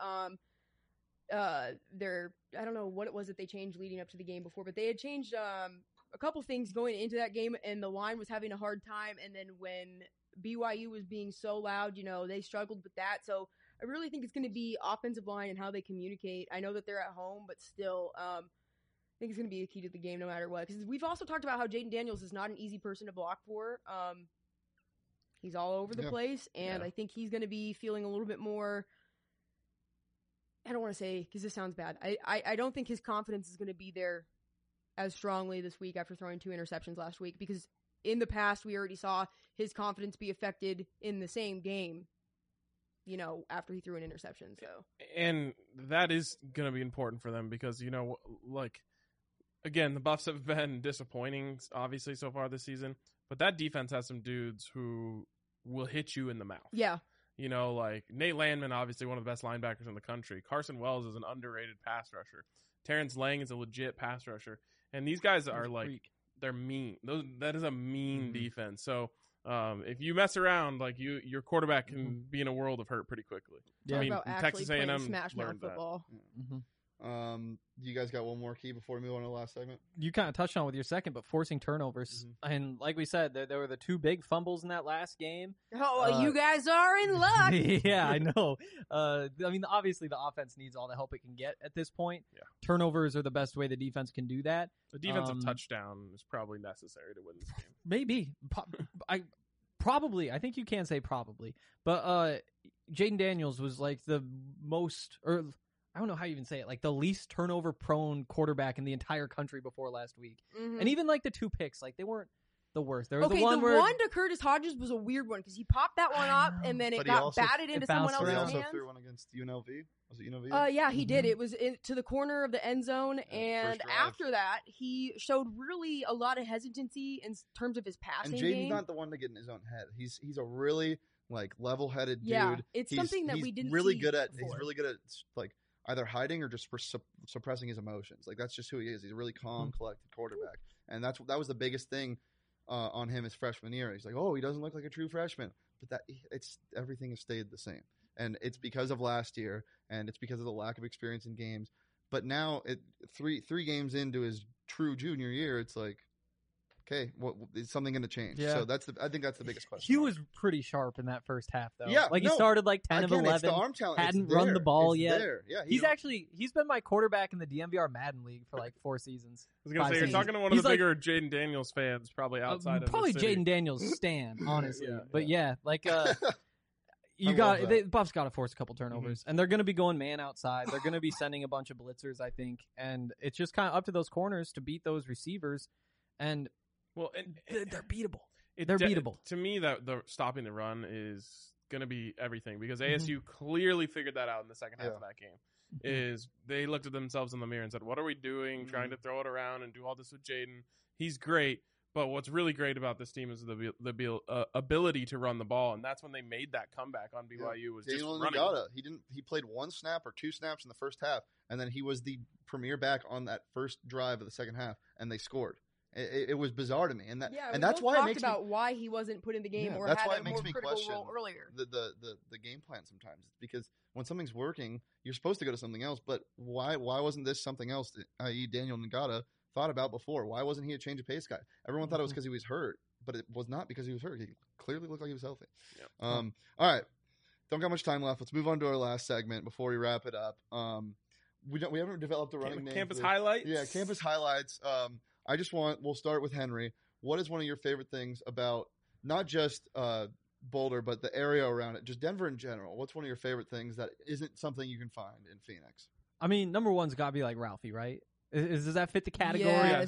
their, I don't know what it was that they changed leading up to the game before, but they had changed a couple things going into that game, and the line was having a hard time. And then when BYU was being so loud, they struggled with that. So I really think it's going to be offensive line and how they communicate. I know that they're at home, but still, I think it's going to be a key to the game no matter what. Because we've also talked about how Jaden Daniels is not an easy person to block for. He's all over the place, and I think he's going to be feeling a little bit more. I don't want to say, because this sounds bad. I don't think his confidence is going to be there as strongly this week after throwing 2 interceptions last week, because in the past, we already saw his confidence be affected in the same game, after he threw an interception. So, and that is going to be important for them because, again, the Buffs have been disappointing, obviously, so far this season. But that defense has some dudes who will hit you in the mouth. Yeah. Nate Landman, obviously one of the best linebackers in the country. Carson Wells is an underrated pass rusher. Terrence Lang is a legit pass rusher. And these guys are they're mean. That is a mean defense. So if you mess around, your quarterback can be in a world of hurt pretty quickly. Yeah. Texas A&M smash mouth learned football. Mm-hmm. You guys got one more key before we move on to the last segment? You kind of touched on it with your second, but forcing turnovers. Mm-hmm. And like we said, there were the 2 big fumbles in that last game. Oh, you guys are in luck. Yeah, I know. Obviously the offense needs all the help it can get at this point. Yeah. Turnovers are the best way the defense can do that. The defensive touchdown is probably necessary to win this game. Maybe. I think you can say probably. But Jaden Daniels was the most, or I don't know how you even say it, the least turnover prone quarterback in the entire country before last week. Mm-hmm. And even the 2 picks, they weren't the worst. There was the one to Curtis Hodges was a weird one because he popped that one up and then it got batted into someone else's hands. He also threw one against UNLV. Was it UNLV? Yeah, he did. It was to the corner of the end zone, and after that, he showed really a lot of hesitancy in terms of his passing game. And Jaden's not the one to get in his own head. He's a really level-headed dude. Yeah, it's something that we didn't really see good at. before. He's really good at either hiding or just suppressing his emotions. That's just who he is. He's a really calm, collected quarterback, and that was the biggest thing on him his freshman year. He's he doesn't look like a true freshman, but everything has stayed the same, and it's because of last year, and it's because of the lack of experience in games. But now, three games into his true junior year, it's okay, is something going to change? Yeah. So I think that's the biggest question. He was pretty sharp in that first half, though. Yeah, he started 10 of 11. It's the arm talent. Hadn't run the ball yet. There. Yeah, he's been my quarterback in the DMVR Madden League for 4 seasons. I was going to say, you're talking to one of the bigger Jaden Daniels fans, probably outside of probably the city. Jaden Daniels stan, honestly. But Buffs got to force a couple turnovers, and they're going to be going man outside. They're going to be sending a bunch of blitzers, I think, and it's just kind of up to those corners to beat those receivers, and they're beatable. They're beatable. To me, that the stopping the run is going to be everything because ASU clearly figured that out in the second half of that game. Is they looked at themselves in the mirror and said, "What are we doing? Trying to throw it around and do all this with Jaden? He's great." But what's really great about this team is the ability to run the ball, and that's when they made that comeback on BYU. Was Daniel just running. Ngata. He played 1 snap or 2 snaps in the first half, and then he was the premier back on that first drive of the second half, and they scored. It was bizarre to me, and that's why it makes about why he wasn't put in the game or that's had why a it makes more me critical question role earlier. The game plan sometimes. It's because when something's working, you're supposed to go to something else. But why wasn't this something else? That, i.e., Daniel Ngata thought about before. Why wasn't he a change of pace guy? Everyone thought it was because he was hurt, but it was not because he was hurt. He clearly looked like he was healthy. Yep. All right, don't got much time left. Let's move on to our last segment before we wrap it up. We haven't developed a running name. Campus highlights. Yeah, campus highlights. We'll start with Henry. What is one of your favorite things about not just Boulder, but the area around it, just Denver in general? What's one of your favorite things that isn't something you can find in Phoenix? I mean, number one's got to be Ralphie, right? Does that fit the category? Yes.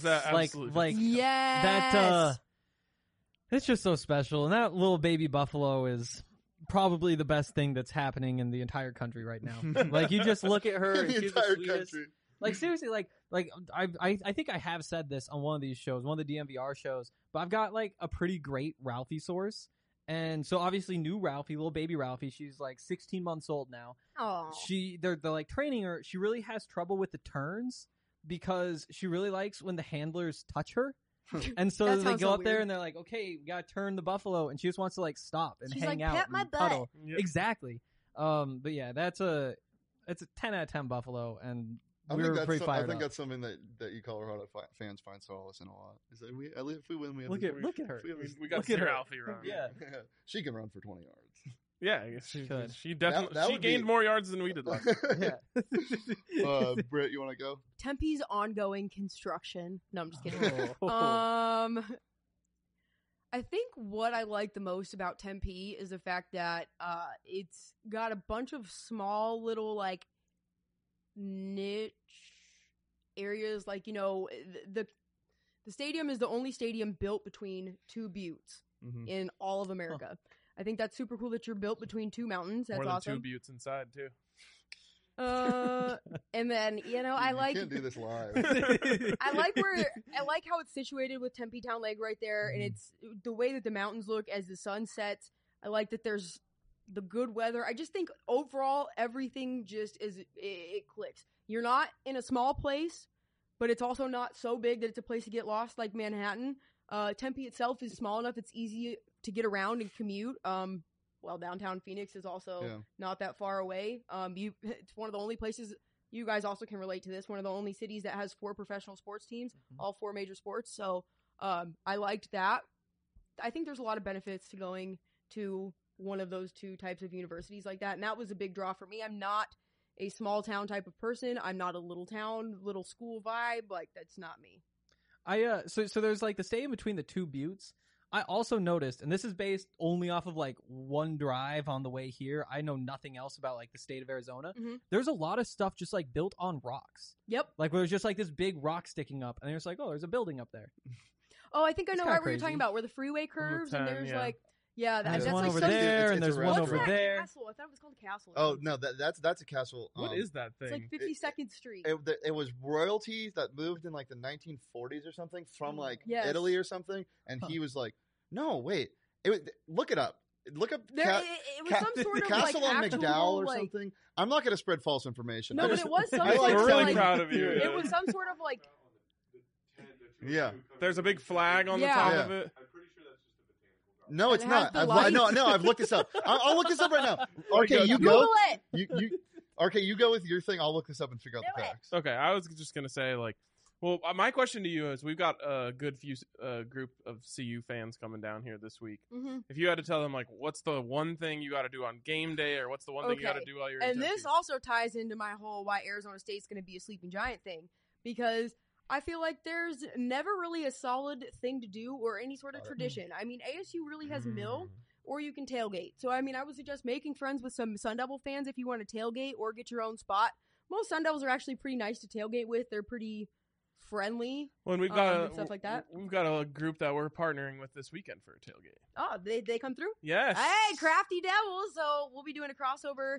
That it's just so special, and that little baby buffalo is probably the best thing that's happening in the entire country right now. You just look at her, and she's the sweetest. Country. Seriously, I think I have said this on one of these shows, one of the DMVR shows, but I've got a pretty great Ralphie source. And so obviously new Ralphie, little baby Ralphie, she's 16 months old now. Oh. They're training her. She really has trouble with the turns because she really likes when the handlers touch her. And so they go up there and they're like, okay, we got to turn the buffalo. And she just wants to stop and hang out pet my and cuddle. butt. Yep. Exactly. But yeah, it's a 10 out of 10 buffalo. And I think that's something that you Colorado fans find solace in a lot. Is that if we win, we have look at her. We got to see Ralphie run. Yeah, she can run for 20 yards. Yeah, she definitely that gained more yards than we did last year. Yeah. Britt, you want to go? Tempe's ongoing construction. No, I'm just kidding. Oh. I think what I like the most about Tempe is the fact that it's got a bunch of small little niche areas, the The stadium is the only stadium built between two buttes Mhm. in all of America. I think that's super cool that you're built between two mountains. That's More than awesome. 2 buttes inside too. And then I You like can't do this live. I like how it's situated with Tempe Town Lake right there, and it's the way that the mountains look as the sun sets. I like that there's the good weather. I just think overall everything just it clicks. You're not in a small place, but it's also not so big that it's a place to get lost like Manhattan. Tempe itself is small enough; it's easy to get around and commute. Well, downtown Phoenix is also not that far away. It's one of the only places you guys also can relate to this. One of the only cities that has 4 professional sports teams, all 4 major sports. So I liked that. I think there's a lot of benefits to going to one of those 2 types of universities like that, and that was a big draw for me. I'm not a small town type of person. I'm not a little town, little school vibe. Like, that's not me. So there's like the stadium between the 2 buttes. I also noticed, and this is based only off of like one drive on the way here. I know nothing else about like the state of Arizona. Mhm. There's a lot of stuff just like built on rocks. Yep. Like where there's just like this big rock sticking up, and there's like, oh, there's a building up there. Oh, I think I It's know kinda right where you're crazy. talking about, where the freeway curves, and 10, there's yeah. like, And there's that's one like over some- there, and it's there's a one What's over that there. castle? I thought it was called Castle. Oh no, that's a castle. What is that thing? It's like 52nd Street. It was royalty that moved in like the 1940s or something from like Yes. Italy or something, and he was like, "No, wait, look it up. Look up There, it was some sort of Castle like on actual, McDowell or like, something." I'm not going to spread false information. No, I but just- it was some I sort like of We're really like, proud of you. It was some sort of like Yeah. There's a big flag on the Yeah. top Yeah. of it. No, And it's it has not. the No, lights. I've looked this up. I'll look this up right now. Okay, RK, you Google go. it. You go with your thing. I'll look this up and figure out the Do it. facts. Okay, I was just gonna say like, well, my question to you is, we've got a good few group of CU fans coming down here this week. Mhm. If you had to tell them like, what's the one thing you got to do on game day, or what's the one thing you got to Okay. do while you're in And this Tempe? also ties into my whole why Arizona State's going to be a sleeping giant thing, because I feel like there's never really a solid thing to do or any sort of tradition. I mean, ASU really has mill, or you can tailgate. So, I mean, I would suggest making friends with some Sun Devil fans if you want to tailgate or get your own spot. Most Sun Devils are actually pretty nice to tailgate with. They're pretty friendly. When we've and stuff like that. we've got a group that we're partnering with this weekend for a tailgate. Oh, they come through? Yes. Hey, Crafty Devils! So we'll be doing a crossover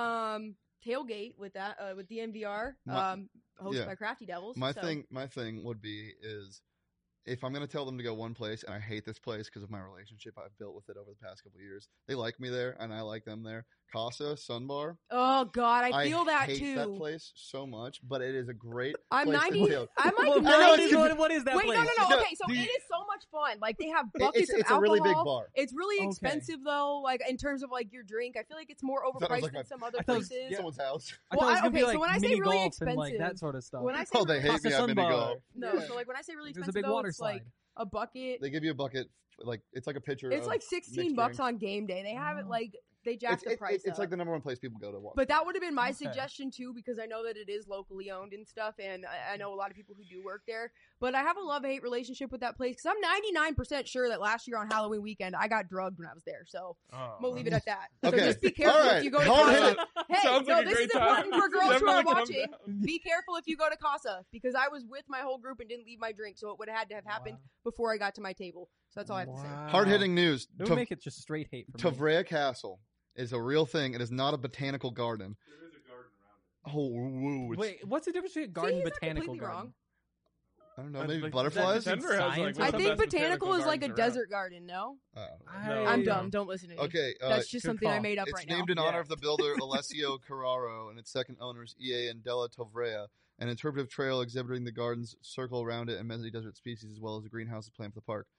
tailgate with that with DNVR, hosted yeah. by Crafty Devils. My so. thing would be is if I'm going to tell them to go one place, and I hate this place because of my relationship I've built with it over the past couple of years. They like me there, and I like them there. Casa Sunbar. Oh God, I feel that hate too. that place so much, but it is a great. I'm place 90. To tail. I'm like Well, 90. what is that Wait, place? no. No, Okay, so do you- it is so much fun. Like they have buckets of It's alcohol. a really big bar. It's really Okay. expensive though. Like in terms of like your drink, I feel like it's more Thought it was overpriced like than a- some other I thought it was- places. yeah. Someone's house. I Well, thought it was gonna okay, be like so when I say mini really golf and like expensive- that sort of stuff. When I say Oh, they really, hate Casa me. I'm gonna Sunbar. go. no, so like when I say really There's expensive, a big though, water it's slide. like a bucket. They give you a bucket, like it's like a pitcher. It's of like 16 mixed bucks drinks. on game day. They have it like they jack It's, the price it's up. like the number one place people go to watch. But that would have been my Okay. suggestion too, because I know that it is locally owned and stuff, and I know a lot of people who do work there. But I have a love-hate relationship with that place because I'm 99% sure that last year on Halloween weekend I got drugged when I was there. So Oh. I'm gonna leave it at that. Okay. So just be careful All right. if you go to Hard Casa. hit Hey, Sounds no, like a this great is time. important for girls who are Definitely come watching. down. Be careful if you go to Casa because I was with my whole group and didn't leave my drink, so it would have had to have happened before I got to my table. So that's all I have to say. Hard hitting news. It would make it just straight hate for me. Tavrea Castle is a real thing. It is not a botanical garden. There is a garden around it. Oh, woo, Wait, what's the difference between a See, garden he's and not botanical completely garden? wrong. I don't know. Like, Maybe that butterflies. Denver Denver has like Science one I of the think best botanical is like a gardens around. desert garden. No, Oh. No. I'm I- dumb. Don't listen to me. Okay. That's just good something I call. made up It's right now. named in honor Yeah. of the builder Alessio Carraro and its second owners EA and Della Tovrea. An interpretive trail exhibiting the garden's circle around it and many desert species, as well as a greenhouse planned for the park.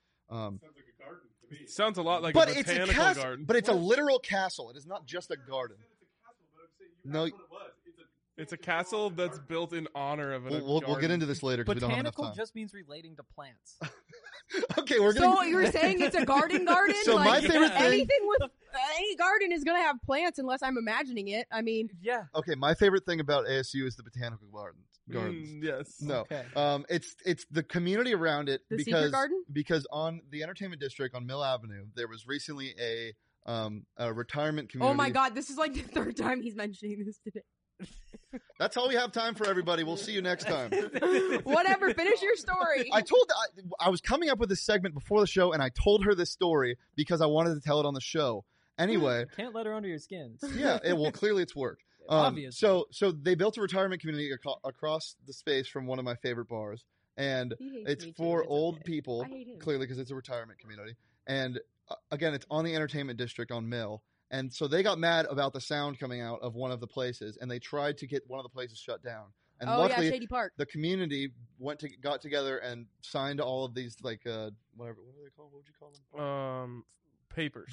Sounds a lot like But a it's a botanical castle. garden. But it's a literal castle. It is not just a garden. No, It's a castle that's built in honor of we'll get garden. into this later because we don't have enough Botanical time. just means relating to plants. Okay, we're gonna. So you're saying it's a garden? So my Like, favorite thing. anything with any garden is gonna have plants unless I'm imagining it. I mean, Yeah. Okay, my favorite thing about ASU is the botanical gardens. Yes. No, Okay. it's the community around it The secret because garden? because on the entertainment district on Mill Avenue there was recently a retirement community. oh my God, this is like the third time he's mentioning this today. That's all we have time for, everybody. We'll see you next time. Whatever. Finish your story. I was coming up with this segment before the show, and I told her this story because I wanted to tell it on the show. Anyway. Can't let her under your skin. Yeah. Well, clearly it's worked. Obviously. So they built a retirement community across the space from one of my favorite bars. And it's for old people, clearly, because it's a retirement community. And again, it's on the entertainment district on Mill. And so they got mad about the sound coming out of one of the places, and they tried to get one of the places shut down. And luckily, Shady Park. the community got together and signed all of these, like, whatever. What are they called? What would you call them? Papers.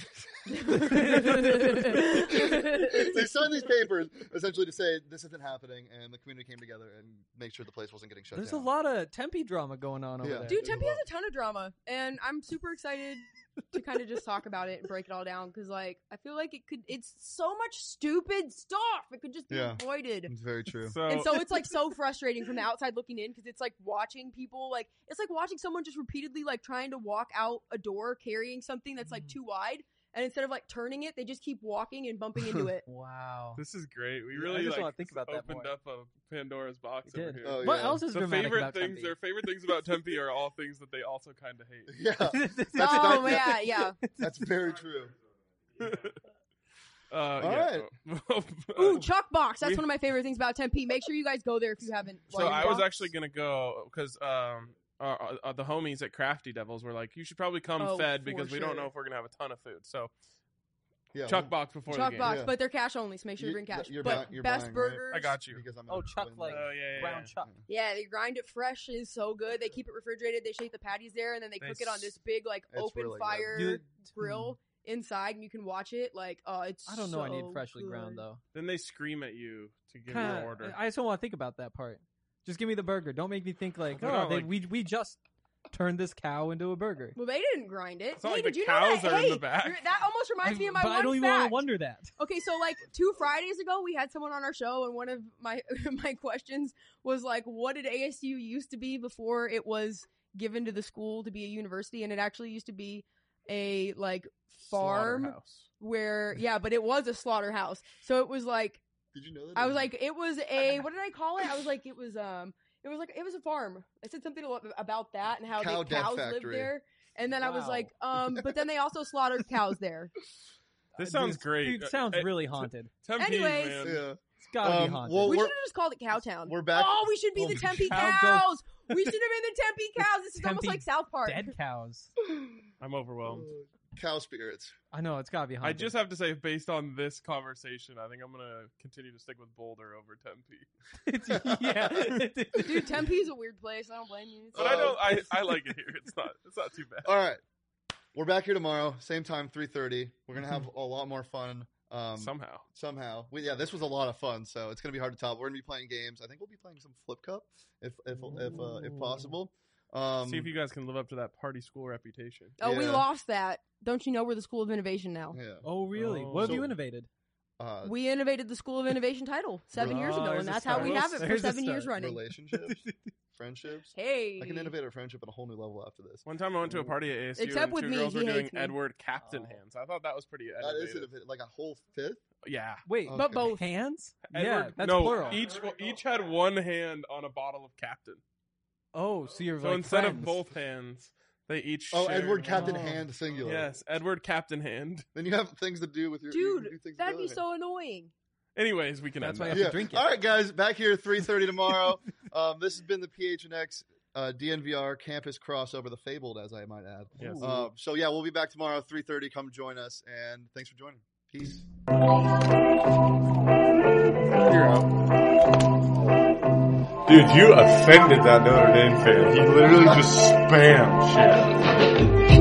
They signed these papers essentially to say this isn't happening, and the community came together and made sure the place wasn't getting shut There's down. a lot of Tempe drama going on over there. Dude, Tempe has a ton of drama, and I'm super excited to kind of just talk about it and break it all down because, like, I feel like it's so much stupid stuff. It could just be avoided. It's very true. And so it's like so frustrating from the outside looking in because it's like watching people it's like watching someone just repeatedly like trying to walk out a door carrying something that's like too wide, and instead of like turning it, they just keep walking and bumping into it. Wow. This is great. We I really just wanna think about that opened more. up a Pandora's box We over did. here. Oh, What yeah. else is The dramatic favorite about things, Tempe? their favorite things about Tempe are all things that they also kind of hate. Yeah. Yeah. That's very true. All right. Ooh, Chuck Box. That's one of my favorite things about Tempe. Make sure you guys go there if you haven't. So I was actually gonna go because the homies at Crafty Devils were like, you should probably come fed because we don't know if we're gonna have a ton of food. So Yeah, Chuck Box before the Chuck game. Box, Yeah. but they're cash only, so make sure you bring cash. You're But you're best buying, burgers. Right? I got you. Because I'm Oh, Chuck, like brown yeah. Chuck. Yeah, they grind it fresh. It's so good. They keep it refrigerated. They shake the patties there, and then they cook it on this big like It's open really good. fire grill inside, and you can watch it. Like, it's I don't know. I need so freshly good. ground though. Then they scream at you to give Kinda- your order. I just don't want to think about that part. Just give me the burger. Don't make me think like, They're oh, not like- we just turned this cow into a burger. Well, they didn't grind it. It's not Hey, like did the you cows know that? are in Hey, the back. that almost reminds me of my but one I don't even want fact. to wonder that. Okay, so like 2 Fridays ago, we had someone on our show, and one of my my questions was like, "What did ASU used to be before it was given to the school to be a university?" And it actually used to be a like farm Slaughterhouse. where, but it was a slaughterhouse. So it was like, Did you know that? I was like, it was a what did I call it? I was like, it was a farm. I said something about that and how Cow the death cows lived factory. there. And then I was Wow. like, but then they also slaughtered cows there. This sounds great. Dude, sounds really haunted. Tempe, Anyways. man. yeah. It's gotta be Um, haunted. well, We should we're- have just called it Cowtown. we're back- Oh, we should be Oh, the Tempe cow cows. We should have been the Tempe cows. This is almost Tempe like South Park. Dead cows. I'm overwhelmed. Cow spirits. I know it's gotta be I haunted. just have to say, based on this conversation, I think I'm gonna continue to stick with Boulder over Tempe. yeah. Dude, Tempe is a weird place. I don't blame you. But I like it here. It's not too bad. All right. We're back here tomorrow, same time, 3:30. We're gonna have a lot more fun. Somehow. This was a lot of fun, so it's gonna be hard to top. We're gonna be playing games. I think we'll be playing some Flip Cup if possible. See if you guys can live up to that party school reputation. Oh, we Yeah. lost that. Don't you know we're the School of Innovation now? Yeah. Oh really? Oh. What have So- you innovated? We innovated the School of Innovation title 7 years ago, there's and a that's how we start. have it for There's a 7 years start. running. Relationships, friendships. Hey. I can innovate a friendship at a whole new level after this. One time I went to a party at ASU Except and with two me, girls he were doing hates me. Edward Captain Oh. hands. I thought that was pretty That innovative. is like a whole fifth. Yeah. Wait, But Okay. both. hands? Edward, Yeah, that's no, plural. Each had one hand on a bottle of Captain. Oh, so you're So like instead friends. of both hands, they each Oh, shared Edward Captain Oh. Hand singular. Yes, Edward Captain hand. Then you have things to do with your you can do Dude, things with that'd the be other so annoying. Anyways, we can That's end why that. you have to drink it. All right, guys, back here at 3:30 tomorrow. This has been the PHNX DNVR campus crossover, the fabled, as I might add. Yes. So yeah, we'll be back tomorrow 3:30. Come join us, and thanks for joining. Peace. Dude, you offended that Notre Dame fan. He literally just spammed shit.